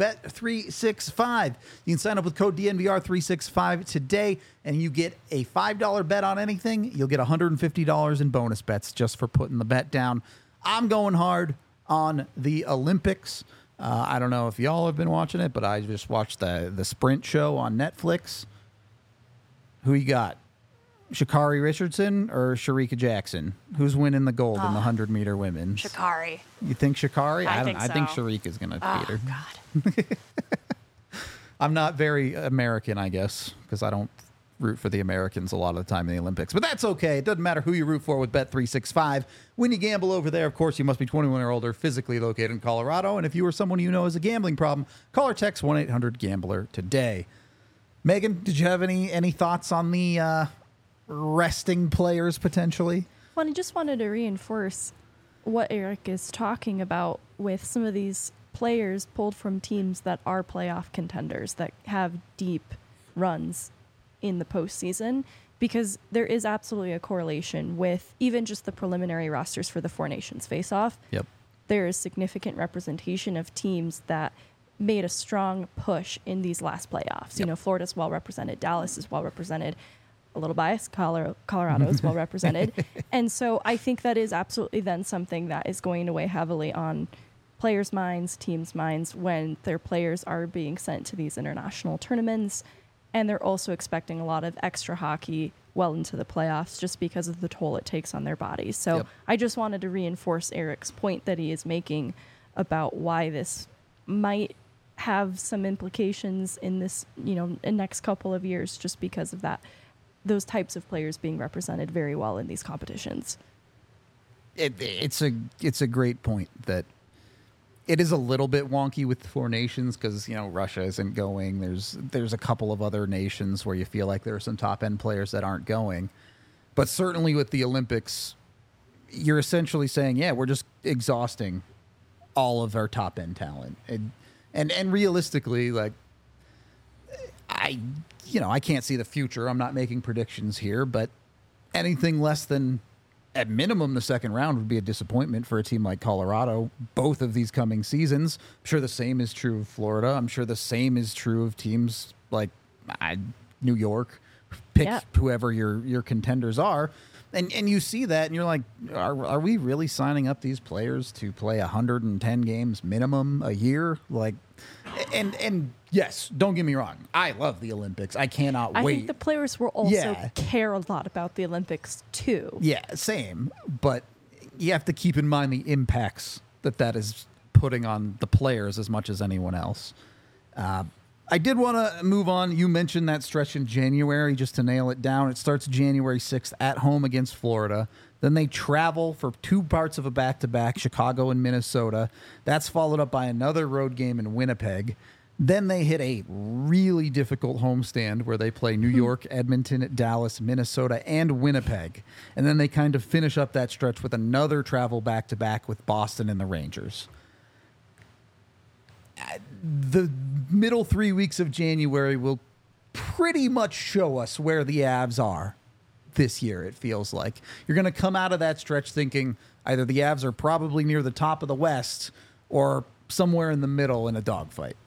Speaker 1: Bet365. You can sign up with code DNVR365 today, and you get a $5 bet on anything. You'll get $150 in bonus bets just for putting the bet down. I'm going hard on the Olympics. I don't know if y'all have been watching it, but I just watched the Sprint show on Netflix. Who you got? Sha'Carri Richardson or Shericka Jackson? Who's winning the gold in the 100-meter women's?
Speaker 2: Sha'Carri.
Speaker 1: You think Sha'Carri?
Speaker 2: I think so.
Speaker 1: I think Shericka's going to beat her.
Speaker 2: God.
Speaker 1: I'm not very American, I guess, because I don't root for the Americans a lot of the time in the Olympics. But that's okay. It doesn't matter who you root for with Bet365. When you gamble over there, of course, you must be 21 or older, physically located in Colorado. And if you or someone you know has a gambling problem, call or text 1-800-GAMBLER today. Megan, did you have any thoughts on the resting players potentially?
Speaker 2: Well, I just wanted to reinforce what Eric is talking about with some of these players pulled from teams that are playoff contenders, that have deep runs in the postseason, because there is absolutely a correlation with even just the preliminary rosters for the Four Nations face-off.
Speaker 1: Yep.
Speaker 2: There is significant representation of teams that made a strong push in these last playoffs.
Speaker 1: Yep.
Speaker 2: You know, Florida's well represented, Dallas is well represented, a little biased, Colorado is well represented. And so I think that is absolutely then something that is going to weigh heavily on players' minds, teams' minds, when their players are being sent to these international tournaments. And they're also expecting a lot of extra hockey well into the playoffs just because of the toll it takes on their bodies. So
Speaker 1: Yep.
Speaker 2: I just wanted to reinforce Eric's point that he is making about why this might have some implications in this, in next couple of years, just because of that, those types of players being represented very well in these competitions.
Speaker 1: It's a great point that it is a little bit wonky with the Four Nations because, Russia isn't going. There's a couple of other nations where you feel like there are some top-end players that aren't going. But certainly with the Olympics, you're essentially saying, yeah, we're just exhausting all of our top-end talent. And realistically, like, I can't see the future. I'm not making predictions here, but anything less than, at minimum, the second round would be a disappointment for a team like Colorado, both of these coming seasons. I'm sure the same is true of Florida. I'm sure the same is true of teams like New York. Pick whoever your contenders are. And you see that, and you're like, are we really signing up these players to play 110 games minimum a year? Like, and yes, don't get me wrong, I love the Olympics. I cannot wait.
Speaker 2: I think the players will also care a lot about the Olympics too.
Speaker 1: Yeah, same. But you have to keep in mind the impacts that is putting on the players as much as anyone else. I did want to move on. You mentioned that stretch in January, just to nail it down. It starts January 6th at home against Florida. Then they travel for two parts of a back-to-back, Chicago and Minnesota. That's followed up by another road game in Winnipeg. Then they hit a really difficult homestand where they play New York, Edmonton, Dallas, Minnesota, and Winnipeg. And then they kind of finish up that stretch with another travel back-to-back with Boston and the Rangers. The middle 3 weeks of January will pretty much show us where the Avs are this year, it feels like. You're going to come out of that stretch thinking either the Avs are probably near the top of the West or somewhere in the middle in a dogfight.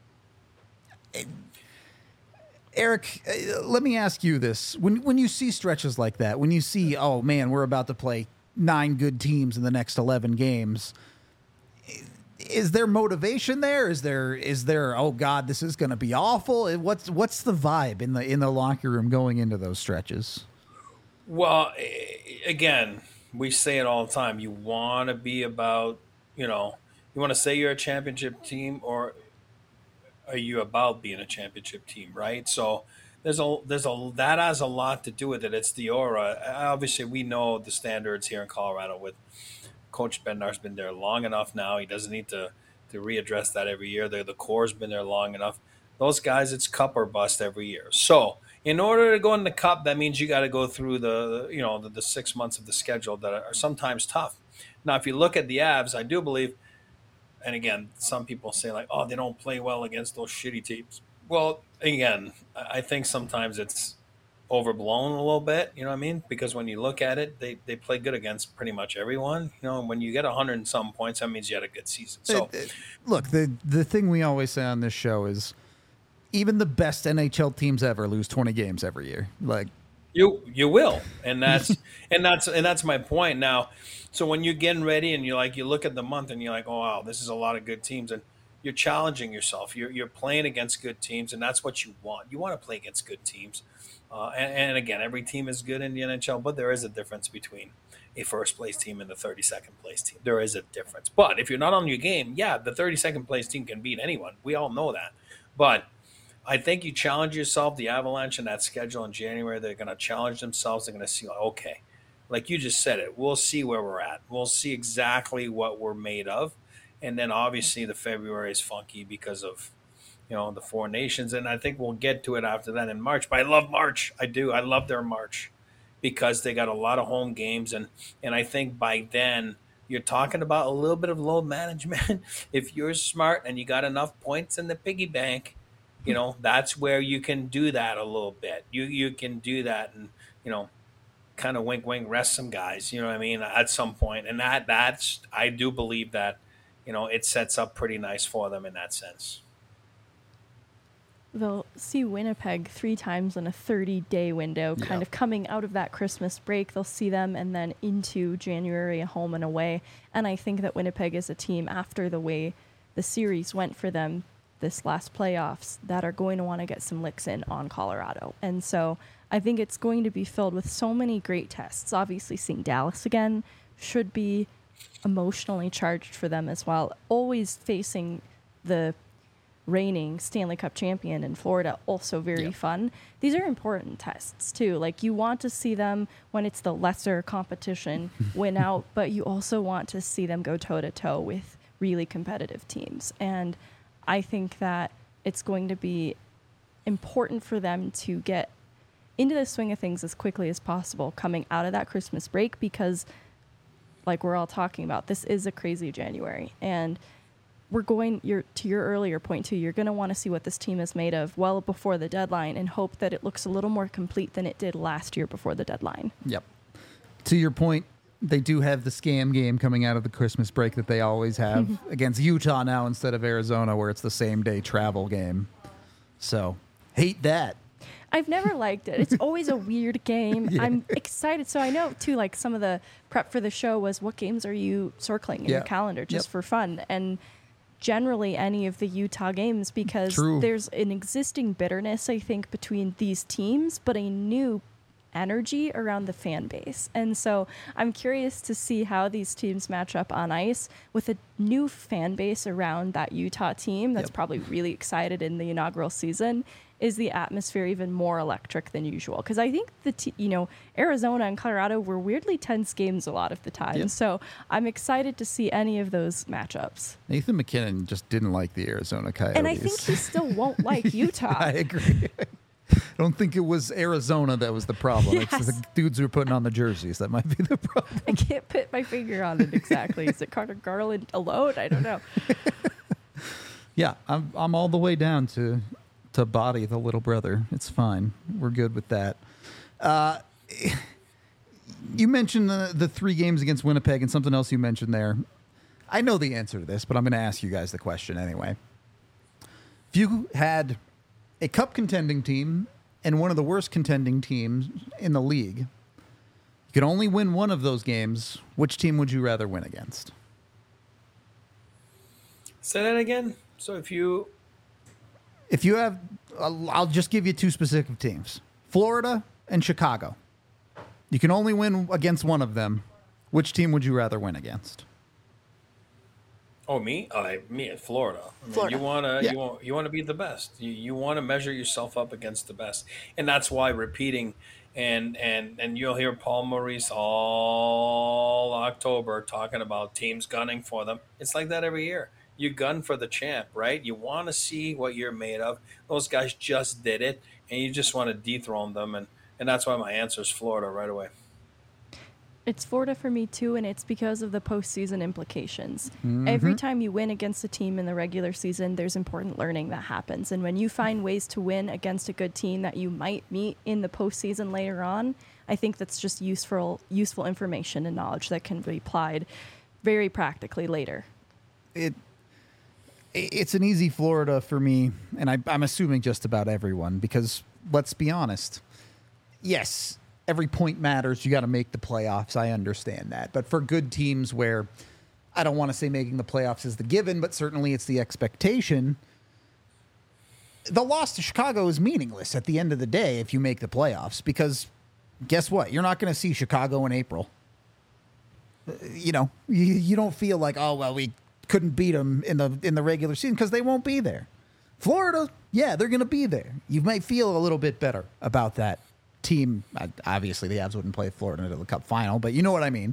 Speaker 1: Eric, let me ask you this. When you see stretches like that, when you see, oh, man, we're about to play 9 good teams in the next 11 games, is there motivation there? Is there oh God, this is going to be awful? What's the vibe in the locker room going into those stretches?
Speaker 3: Well, again, we say it all the time. You want to be about, you want to say you're a championship team, or are you about being a championship team, right? So that has a lot to do with it. It's the aura. Obviously, we know the standards here in Colorado with Coach Bednar's been there long enough now. He doesn't need to readdress that every year. The core's been there long enough. Those guys, it's cup or bust every year. So in order to go in the cup, that means you got to go through the 6 months of the schedule that are sometimes tough. Now, if you look at the Avs, I do believe, and again, some people say like, oh, they don't play well against those shitty teams. Well, again, I think sometimes it's overblown a little bit, you know what I mean? Because when you look at it, they play good against pretty much everyone. When you get 100 and some points, that means you had a good season. So,
Speaker 1: look, the thing we always say on this show is even the best NHL teams ever lose 20 games every year. Like
Speaker 3: you will, and that's my point. Now, so when you're getting ready and you look at the month and you're like, oh wow, this is a lot of good teams, and you're challenging yourself. You're playing against good teams, and that's what you want. You want to play against good teams. And again, every team is good in the NHL, but there is a difference between a first-place team and the 32nd place team. There is a difference. But if you're not on your game, yeah, the 32nd place team can beat anyone. We all know that. But I think you challenge yourself. The Avalanche in that schedule in January, they're going to challenge themselves. They're going to see, okay, like you just said it, we'll see where we're at. We'll see exactly what we're made of. And then obviously the February is funky because of, the Four Nations. And I think we'll get to it after that in March. But I love March. I do. I love their March because they got a lot of home games. And I think by then you're talking about a little bit of load management. If you're smart and you got enough points in the piggy bank, that's where you can do that a little bit. You can do that and, kind of wink, wink, rest some guys, you know what I mean, at some point. And that's, I do believe that, it sets up pretty nice for them in that sense.
Speaker 2: They'll see Winnipeg 3 times in a 30-day window, kind of coming out of that Christmas break. They'll see them and then into January, home and away. And I think that Winnipeg is a team, after the way the series went for them this last playoffs, that are going to want to get some licks in on Colorado. And so I think it's going to be filled with so many great tests. Obviously, seeing Dallas again should be emotionally charged for them as well. Always facing the reigning Stanley Cup champion in Florida, also very fun. These are important tests too. Like, you want to see them when it's the lesser competition win out, but you also want to see them go toe to toe with really competitive teams. And I think that it's going to be important for them to get into the swing of things as quickly as possible coming out of that Christmas break, because like we're all talking about, this is a crazy January, and to your earlier point too, you're going to want to see what this team is made of well before the deadline and hope that it looks a little more complete than it did last year before the deadline.
Speaker 1: Yep. To your point, they do have the scam game coming out of the Christmas break that they always have against Utah now instead of Arizona, where it's the same day travel game. So, hate that.
Speaker 2: I've never liked it. It's always a weird game. Yeah. I'm excited. So I know, too, like some of the prep for the show was, what games are you circling in your calendar just for fun? And generally any of the Utah games, because there's an existing bitterness, I think, between these teams, but a new energy around the fan base. And so I'm curious to see how these teams match up on ice with a new fan base around that Utah team that's probably really excited in the inaugural season. Is the atmosphere even more electric than usual? Because I think Arizona and Colorado were weirdly tense games a lot of the time. So I'm excited to see any of those matchups.
Speaker 1: Nathan MacKinnon just didn't like the Arizona Coyotes.
Speaker 2: And I think he still won't like Utah.
Speaker 1: I agree. I don't think it was Arizona that was the problem. Yes. It's the dudes who are putting on the jerseys that might be the problem.
Speaker 2: I can't put my finger on it exactly. Is it Carter Garland alone? I don't know.
Speaker 1: Yeah, I'm all the way down to body the little brother. It's fine. We're good with that. You mentioned the 3 games against Winnipeg and something else you mentioned there. I know the answer to this, but I'm going to ask you guys the question anyway. If you had a cup contending team and one of the worst contending teams in the league, you could only win one of those games, which team would you rather win against?
Speaker 3: Say that again. So if you
Speaker 1: have, I'll just give you 2 specific teams, Florida and Chicago. You can only win against one of them. Which team would you rather win against?
Speaker 3: Oh, me? Me at Florida.
Speaker 2: Florida.
Speaker 3: You want to be the best. You want to measure yourself up against the best, and that's why repeating. And you'll hear Paul Maurice all October talking about teams gunning for them. It's like that every year. You gun for the champ, right? You want to see what you're made of. Those guys just did it, and you just want to dethrone them, and that's why my answer is Florida right away.
Speaker 2: It's Florida for me, too, and it's because of the postseason implications.
Speaker 1: Mm-hmm.
Speaker 2: Every time you win against a team in the regular season, there's important learning that happens. And when you find ways to win against a good team that you might meet in the postseason later on, I think that's just useful information and knowledge that can be applied very practically later.
Speaker 1: It's an easy Florida for me, and I'm assuming just about everyone, because let's be honest. Yes, every point matters. You got to make the playoffs. I understand that. But for good teams where I don't want to say making the playoffs is the given, but certainly it's the expectation, the loss to Chicago is meaningless at the end of the day if you make the playoffs, because guess what? You're not going to see Chicago in April. You don't feel like, oh, well, we couldn't beat them in the regular season, because they won't be there. Florida, yeah, they're going to be there. You might feel a little bit better about that team. Obviously, the Avs wouldn't play Florida in the Cup final, but you know what I mean.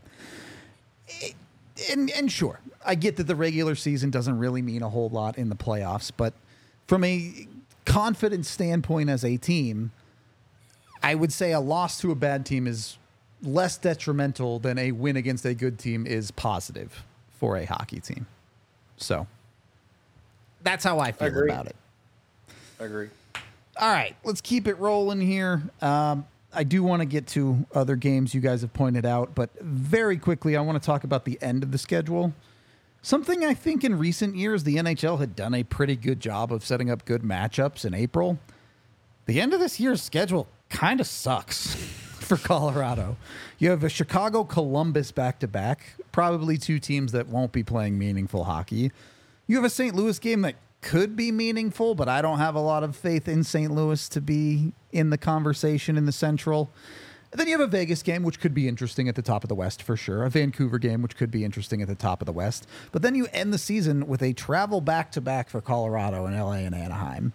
Speaker 1: And sure, I get that the regular season doesn't really mean a whole lot in the playoffs, but from a confidence standpoint as a team, I would say a loss to a bad team is less detrimental than a win against a good team is positive for a hockey team. So that's how I feel about it.
Speaker 3: I agree.
Speaker 1: All right, let's keep it rolling here. I do want to get to other games you guys have pointed out, but very quickly, I want to talk about the end of the schedule. Something I think in recent years, the NHL had done a pretty good job of setting up good matchups in April. The end of this year's schedule kind of sucks for Colorado. You have a Chicago-Columbus back-to-back, probably two teams that won't be playing meaningful hockey. You have a St. Louis game that could be meaningful, but I don't have a lot of faith in St. Louis to be in the conversation in the Central. And then you have a Vegas game, which could be interesting at the top of the West for sure. A Vancouver game, which could be interesting at the top of the West. But then you end the season with a travel back-to-back for Colorado and LA and Anaheim.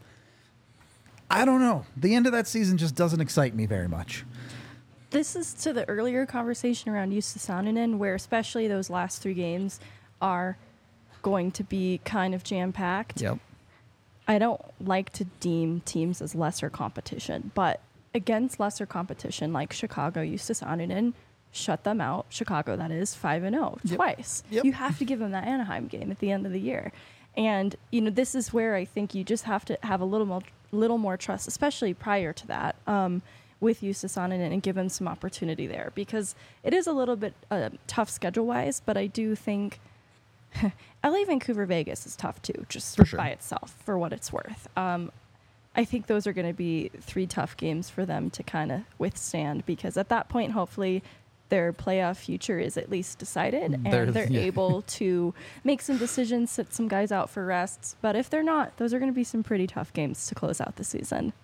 Speaker 1: I don't know. The end of that season just doesn't excite me very much.
Speaker 2: This is to the earlier conversation around Jussi Saarinen, where especially those last three games are going to be kind of jam-packed.
Speaker 1: Yep.
Speaker 2: I don't like to deem teams as lesser competition, but against lesser competition like Chicago, Jussi Saarinen shut them out. Chicago, that is, 5-0 twice.
Speaker 1: Yep.
Speaker 2: You have to give them that Anaheim game at the end of the year. And, this is where I think you just have to have a little more trust, especially prior to that, with Jussi Saarinen and give him some opportunity there, because it is a little bit tough schedule-wise, but I do think LA, Vancouver, Vegas is tough too, just
Speaker 1: for sure,
Speaker 2: by itself, for what it's worth. I think those are going to be three tough games for them to kind of withstand, because at that point, hopefully, their playoff future is at least decided, and they're able to make some decisions, sit some guys out for rests. But if they're not, those are going to be some pretty tough games to close out the season.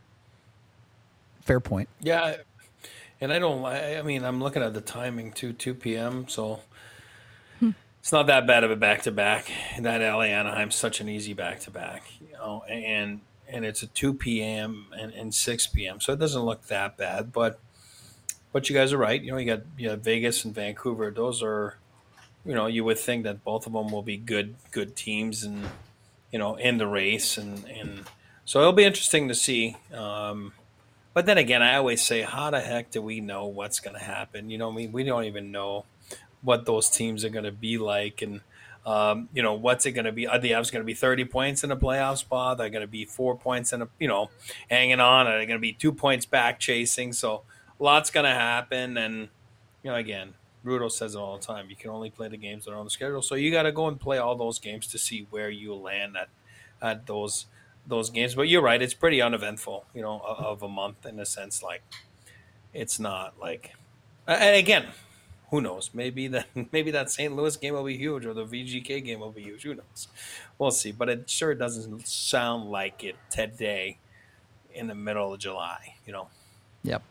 Speaker 1: Fair point.
Speaker 3: Yeah, and I'm looking at the timing too, 2 p.m., so it's not that bad of a back-to-back. That LA Anaheim's such an easy back-to-back, and it's a 2 p.m. and 6 p.m., so it doesn't look that bad. But you guys are right. You got Vegas and Vancouver. Those are, you would think that both of them will be good teams, and in the race, and so it'll be interesting to see. But then again, I always say, how the heck do we know what's going to happen? We don't even know what those teams are going to be like, and what's it going to be? Are the Avs going to be 30 points in a playoff spot? They're going to be 4 points in hanging on. Are they going to be 2 points back chasing? So lots going to happen, and again, Rudo says it all the time. You can only play the games that are on the schedule, so you got to go and play all those games to see where you land at those games. But you're right, it's pretty uneventful, of a month, in a sense. Like, it's not like, and again, who knows? Maybe that St. Louis game will be huge, or the VGK game will be huge. Who knows? We'll see. But it sure doesn't sound like it today in the middle of July,
Speaker 1: Yep.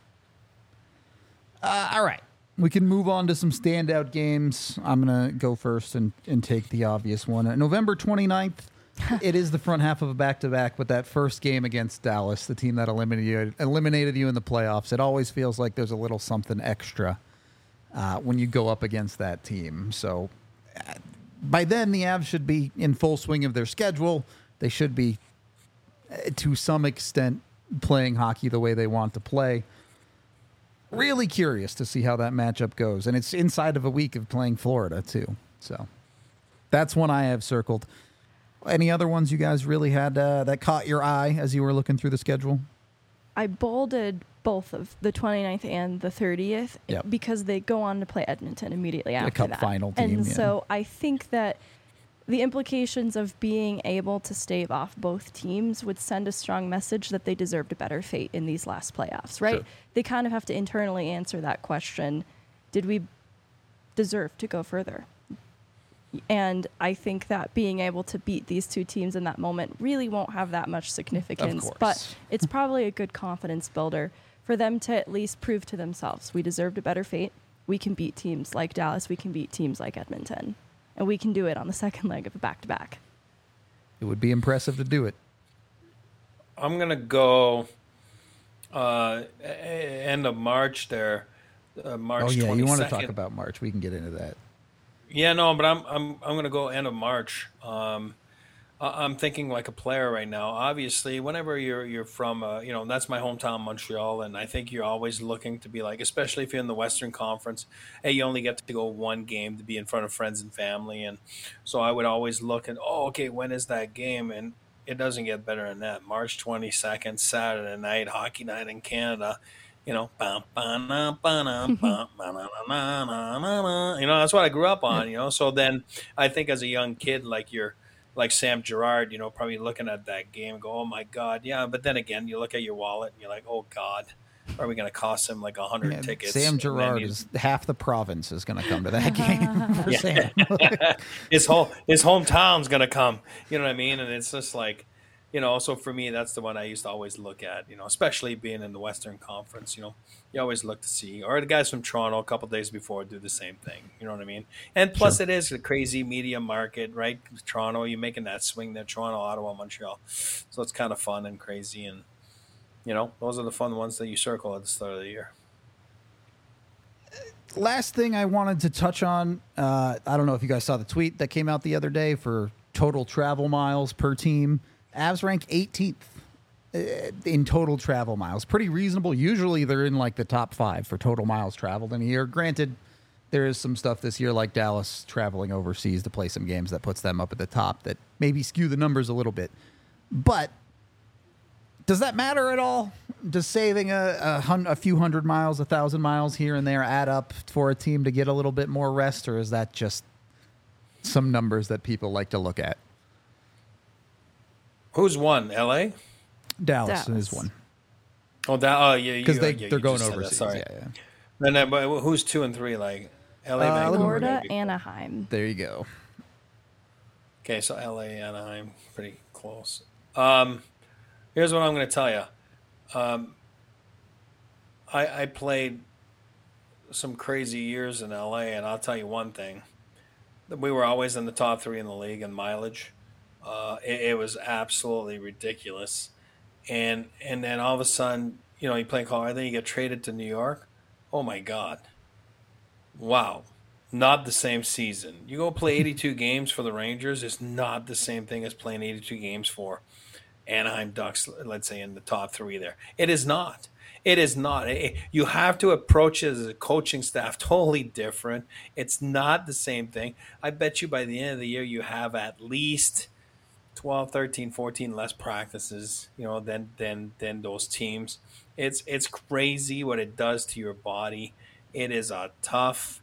Speaker 1: All right. We can move on to some standout games. I'm going to go first and take the obvious one. November 29th, it is the front half of a back-to-back, but that first game against Dallas, the team that eliminated you in the playoffs, it always feels like there's a little something extra when you go up against that team. So by then, the Avs should be in full swing of their schedule. They should be, to some extent, playing hockey the way they want to play. Really curious to see how that matchup goes. And it's inside of a week of playing Florida, too. So that's one I have circled. Any other ones you guys really had that caught your eye as you were looking through the schedule?
Speaker 2: I bolded both of the 29th and the 30th because they go on to play Edmonton immediately after that.
Speaker 1: A cup final team.
Speaker 2: And so I think that the implications of being able to stave off both teams would send a strong message that they deserved a better fate in these last playoffs, right? Sure. They kind of have to internally answer that question. Did we deserve to go further? And I think that being able to beat these two teams in that moment really won't have that much significance. But it's probably a good confidence builder for them to at least prove to themselves, we deserved a better fate. We can beat teams like Dallas. We can beat teams like Edmonton. And we can do it on the second leg of a back-to-back.
Speaker 1: It would be impressive to do it.
Speaker 3: I'm gonna go end of March there, March 22nd.
Speaker 1: You want to talk about March? We can get into that.
Speaker 3: Yeah, no, but I'm gonna go end of March. I'm thinking like a player right now. Obviously, whenever you're from, that's my hometown, Montreal, and I think you're always looking to be like, especially if you're in the Western Conference, hey, you only get to go one game to be in front of friends and family, and so I would always look at, okay, when is that game? And it doesn't get better than that. March 22nd, Saturday night, hockey night in Canada. That's what I grew up on. So then I think as a young kid, like Sam Girard, probably looking at that game and go, oh my God. Yeah. But then again, you look at your wallet and you're like, oh God, are we going to cost him like 100 tickets?
Speaker 1: Sam Girard is half the province is going to come to that game. For Sam.
Speaker 3: his hometown's going to come, you know what I mean? And it's just like, so for me, that's the one I used to always look at, especially being in the Western Conference, you always look to see, or the guys from Toronto a couple of days before do the same thing. You know what I mean? And plus It is a crazy media market, right? Toronto, you're making that swing there, Toronto, Ottawa, Montreal. So it's kind of fun and crazy. And, those are the fun ones that you circle at the start of the year.
Speaker 1: Last thing I wanted to touch on, I don't know if you guys saw the tweet that came out the other day for total travel miles per team. Avs rank 18th in total travel miles. Pretty reasonable. Usually they're in like the top 5 for total miles traveled in a year. Granted, there is some stuff this year like Dallas traveling overseas to play some games that puts them up at the top that maybe skew the numbers a little bit. But does that matter at all? Does saving a few hundred miles, 1,000 miles here and there add up for a team to get a little bit more rest, or is that just some numbers that people like to look at?
Speaker 3: Who's won? L.A.?
Speaker 1: Dallas is one.
Speaker 3: Oh, yeah.
Speaker 1: Because they're going overseas.
Speaker 3: Sorry. Yeah. And but who's 2 and 3? Like L.A., Vancouver,
Speaker 2: Florida, Anaheim.
Speaker 1: There you go.
Speaker 3: Okay, so L.A., Anaheim, pretty close. Here's what I'm going to tell you. I played some crazy years in L.A., and I'll tell you one thing. We were always in the top 3 in the league in mileage. It was absolutely ridiculous. And then all of a sudden, you play in Colorado, then you get traded to New York. Oh, my God. Wow. Not the same season. You go play 82 games for the Rangers. It's not the same thing as playing 82 games for Anaheim Ducks, let's say, in the top 3 there. It is not. It is not. You have to approach it as a coaching staff totally different. It's not the same thing. I bet you by the end of the year you have at least 12, 13, 14 less practices, than those teams. It's crazy what it does to your body. It is a tough.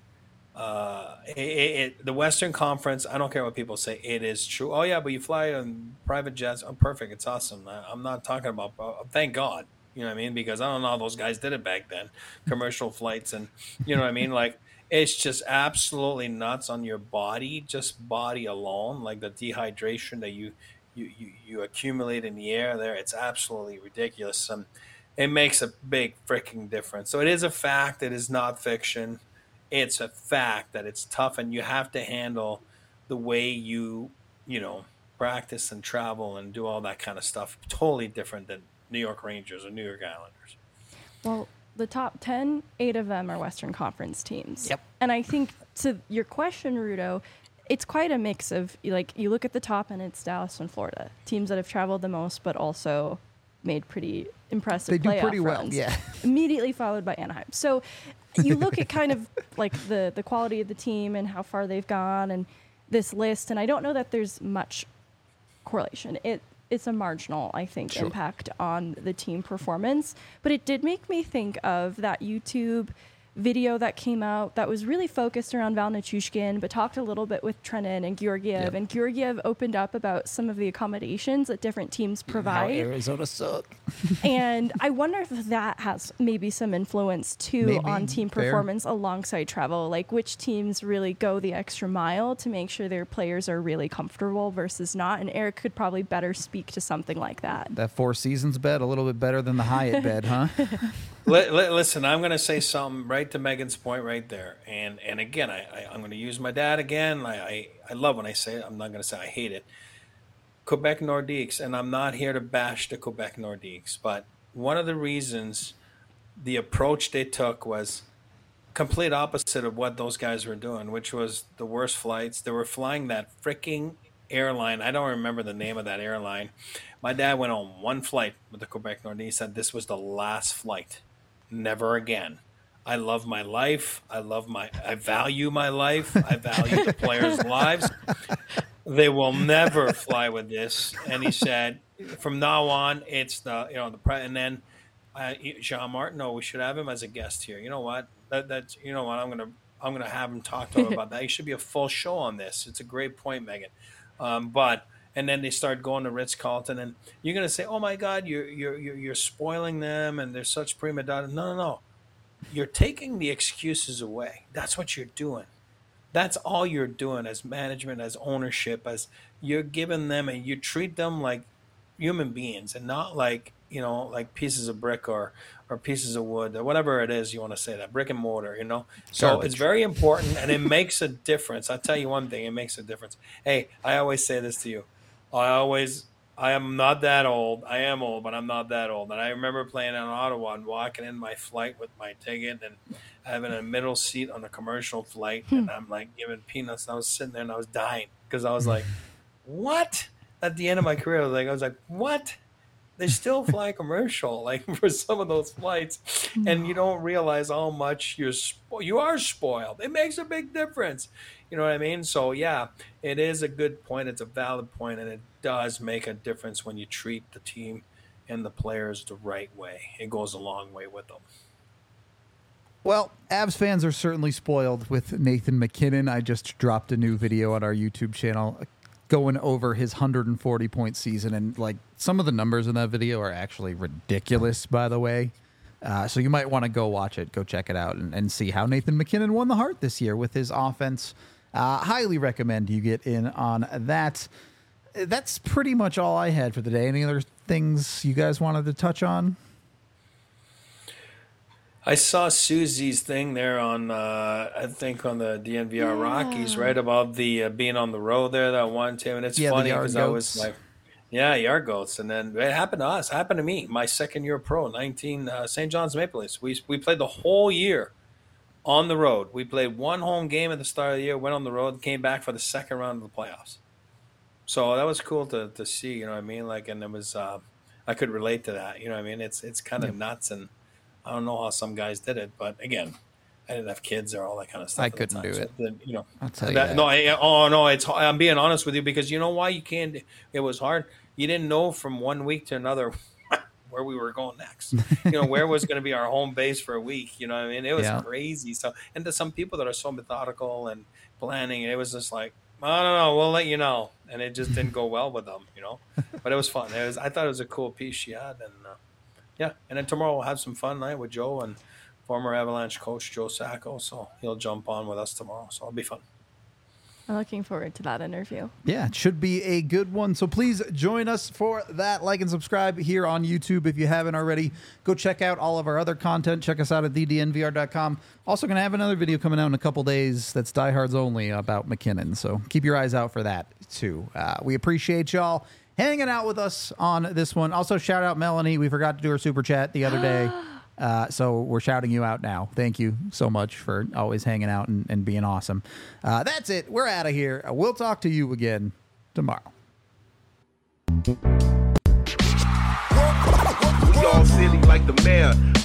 Speaker 3: The Western Conference, I don't care what people say, it is true. Oh yeah, but you fly on private jets. Oh, perfect. It's awesome. I'm not talking about. Thank God. You know what I mean? Because I don't know how those guys did it back then. Commercial flights and you know what I mean? Like it's just absolutely nuts on your body, just body alone, like the dehydration that you accumulate in the air there. It's absolutely ridiculous. It makes a big freaking difference. So it is a fact. It is not fiction. It's a fact that it's tough, and you have to handle the way you practice and travel and do all that kind of stuff. Totally different than New York Rangers or New York Islanders.
Speaker 2: Well, the top 10, 8 of them are Western Conference teams.
Speaker 1: Yep.
Speaker 2: And I think to your question, Rudo, it's quite a mix of, like, you look at the top and it's Dallas and Florida, teams that have traveled the most, but also made pretty impressive playoff runs. They do pretty well, yeah. Immediately followed by Anaheim. So you look at kind of like the quality of the team and how far they've gone and this list, and I don't know that there's much correlation. It's a marginal, I think, impact on the team performance. But it did make me think of that YouTube video that came out that was really focused around Val Nichushkin, but talked a little bit with Trenin and Georgiev. Yep. And Georgiev opened up about some of the accommodations that different teams provide.
Speaker 1: How Arizona suck.
Speaker 2: And I wonder if that has maybe some influence, too, on team performance alongside travel. Like, which teams really go the extra mile to make sure their players are really comfortable versus not. And Eric could probably better speak to something like that.
Speaker 1: That Four Seasons bed, a little bit better than the Hyatt bed, huh?
Speaker 3: Listen, I'm going to say something right to Megan's point right there. And again, I'm going to use my dad again. I love when I say it. I'm not going to say I hate it. Quebec Nordiques, and I'm not here to bash the Quebec Nordiques, but one of the reasons the approach they took was complete opposite of what those guys were doing, which was the worst flights. They were flying that freaking airline. I don't remember the name of that airline. My dad went on one flight with the Quebec Nordiques. He said this was the last flight. Never again. I love my life. I value my life. I value the players' lives. They will never fly with this. And he said, from now on, it's and then Jean Martineau, we should have him as a guest here. You know what? That's I'm gonna have him talk to him about that. He should be a full show on this. It's a great point, Megan. And then they start going to Ritz-Carlton, and you're gonna say, "Oh my God, you're spoiling them, and they're such prima donna." No. You're taking the excuses away. That's what you're doing. That's all you're doing as management, as ownership, as you're giving them, and you treat them like human beings and not like, like pieces of brick or pieces of wood or whatever it is you want to say, that brick and mortar, So garbage. It's very important, and it makes a difference. I'll tell you one thing, it makes a difference. Hey, I always say this to you. I am not that old. I am old, but I'm not that old. And I remember playing in Ottawa and walking in my flight with my ticket and having a middle seat on a commercial flight. And I'm like giving peanuts. And I was sitting there and I was dying because I was like, what? At the end of my career, I was like, what? They still fly commercial, like for some of those flights. And you don't realize how much you are spoiled. It makes a big difference. You know what I mean? So, yeah, it is a good point. It's a valid point, and it does make a difference when you treat the team and the players the right way. It goes a long way with them.
Speaker 1: Well, Avs fans are certainly spoiled with Nathan MacKinnon. I just dropped a new video on our YouTube channel going over his 140-point season, and some of the numbers in that video are actually ridiculous, by the way. So you might want to go watch it, go check it out, and see how Nathan MacKinnon won the Hart this year with his offense. Highly recommend you get in on that. That's pretty much all I had for the day. Any other things you guys wanted to touch on?
Speaker 3: I saw Susie's thing there on, I think on the DNVR Rockies, right, about the being on the road there that one time. And it's funny because I was like, yard goats. And then it happened to us. It happened to me. My second year pro, St. John's Maple Leafs. We played the whole year on the road. We played one home game at the start of the year, went on the road, came back for the second round of the playoffs. So that was cool to see, you know what I mean? And it was, I could relate to that, you know what I mean? It's kind of nuts, and I don't know how some guys did it, but again, I didn't have kids or all that kind of stuff.
Speaker 1: I couldn't do it.
Speaker 3: So,
Speaker 1: I'll tell you that.
Speaker 3: I'm being honest with you, because you know why you can't. It was hard. You didn't know from 1 week to another where we were going next. Where was going to be our home base for a week. You know what I mean? It was crazy. So, and to some people that are so methodical and planning, it was just like, I don't know, we'll let you know. And it just didn't go well with them, But it was fun. I thought it was a cool piece she had, and and then tomorrow we'll have some fun night with Joe and former Avalanche coach Joe Sacco, so he'll jump on with us tomorrow, so it'll be fun.
Speaker 2: I'm looking forward to that interview.
Speaker 1: Yeah, it should be a good one. So please join us for that. Like and subscribe here on YouTube if you haven't already. Go check out all of our other content. Check us out at thednvr.com. Also going to have another video coming out in a couple days that's Diehards only about MacKinnon. So keep your eyes out for that too. We appreciate y'all hanging out with us on this one. Also, shout out Melanie. We forgot to do her super chat the other day. So we're shouting you out now. Thank you so much for always hanging out and being awesome. That's it. We're out of here. We'll talk to you again tomorrow.
Speaker 4: We all silly like the mayor.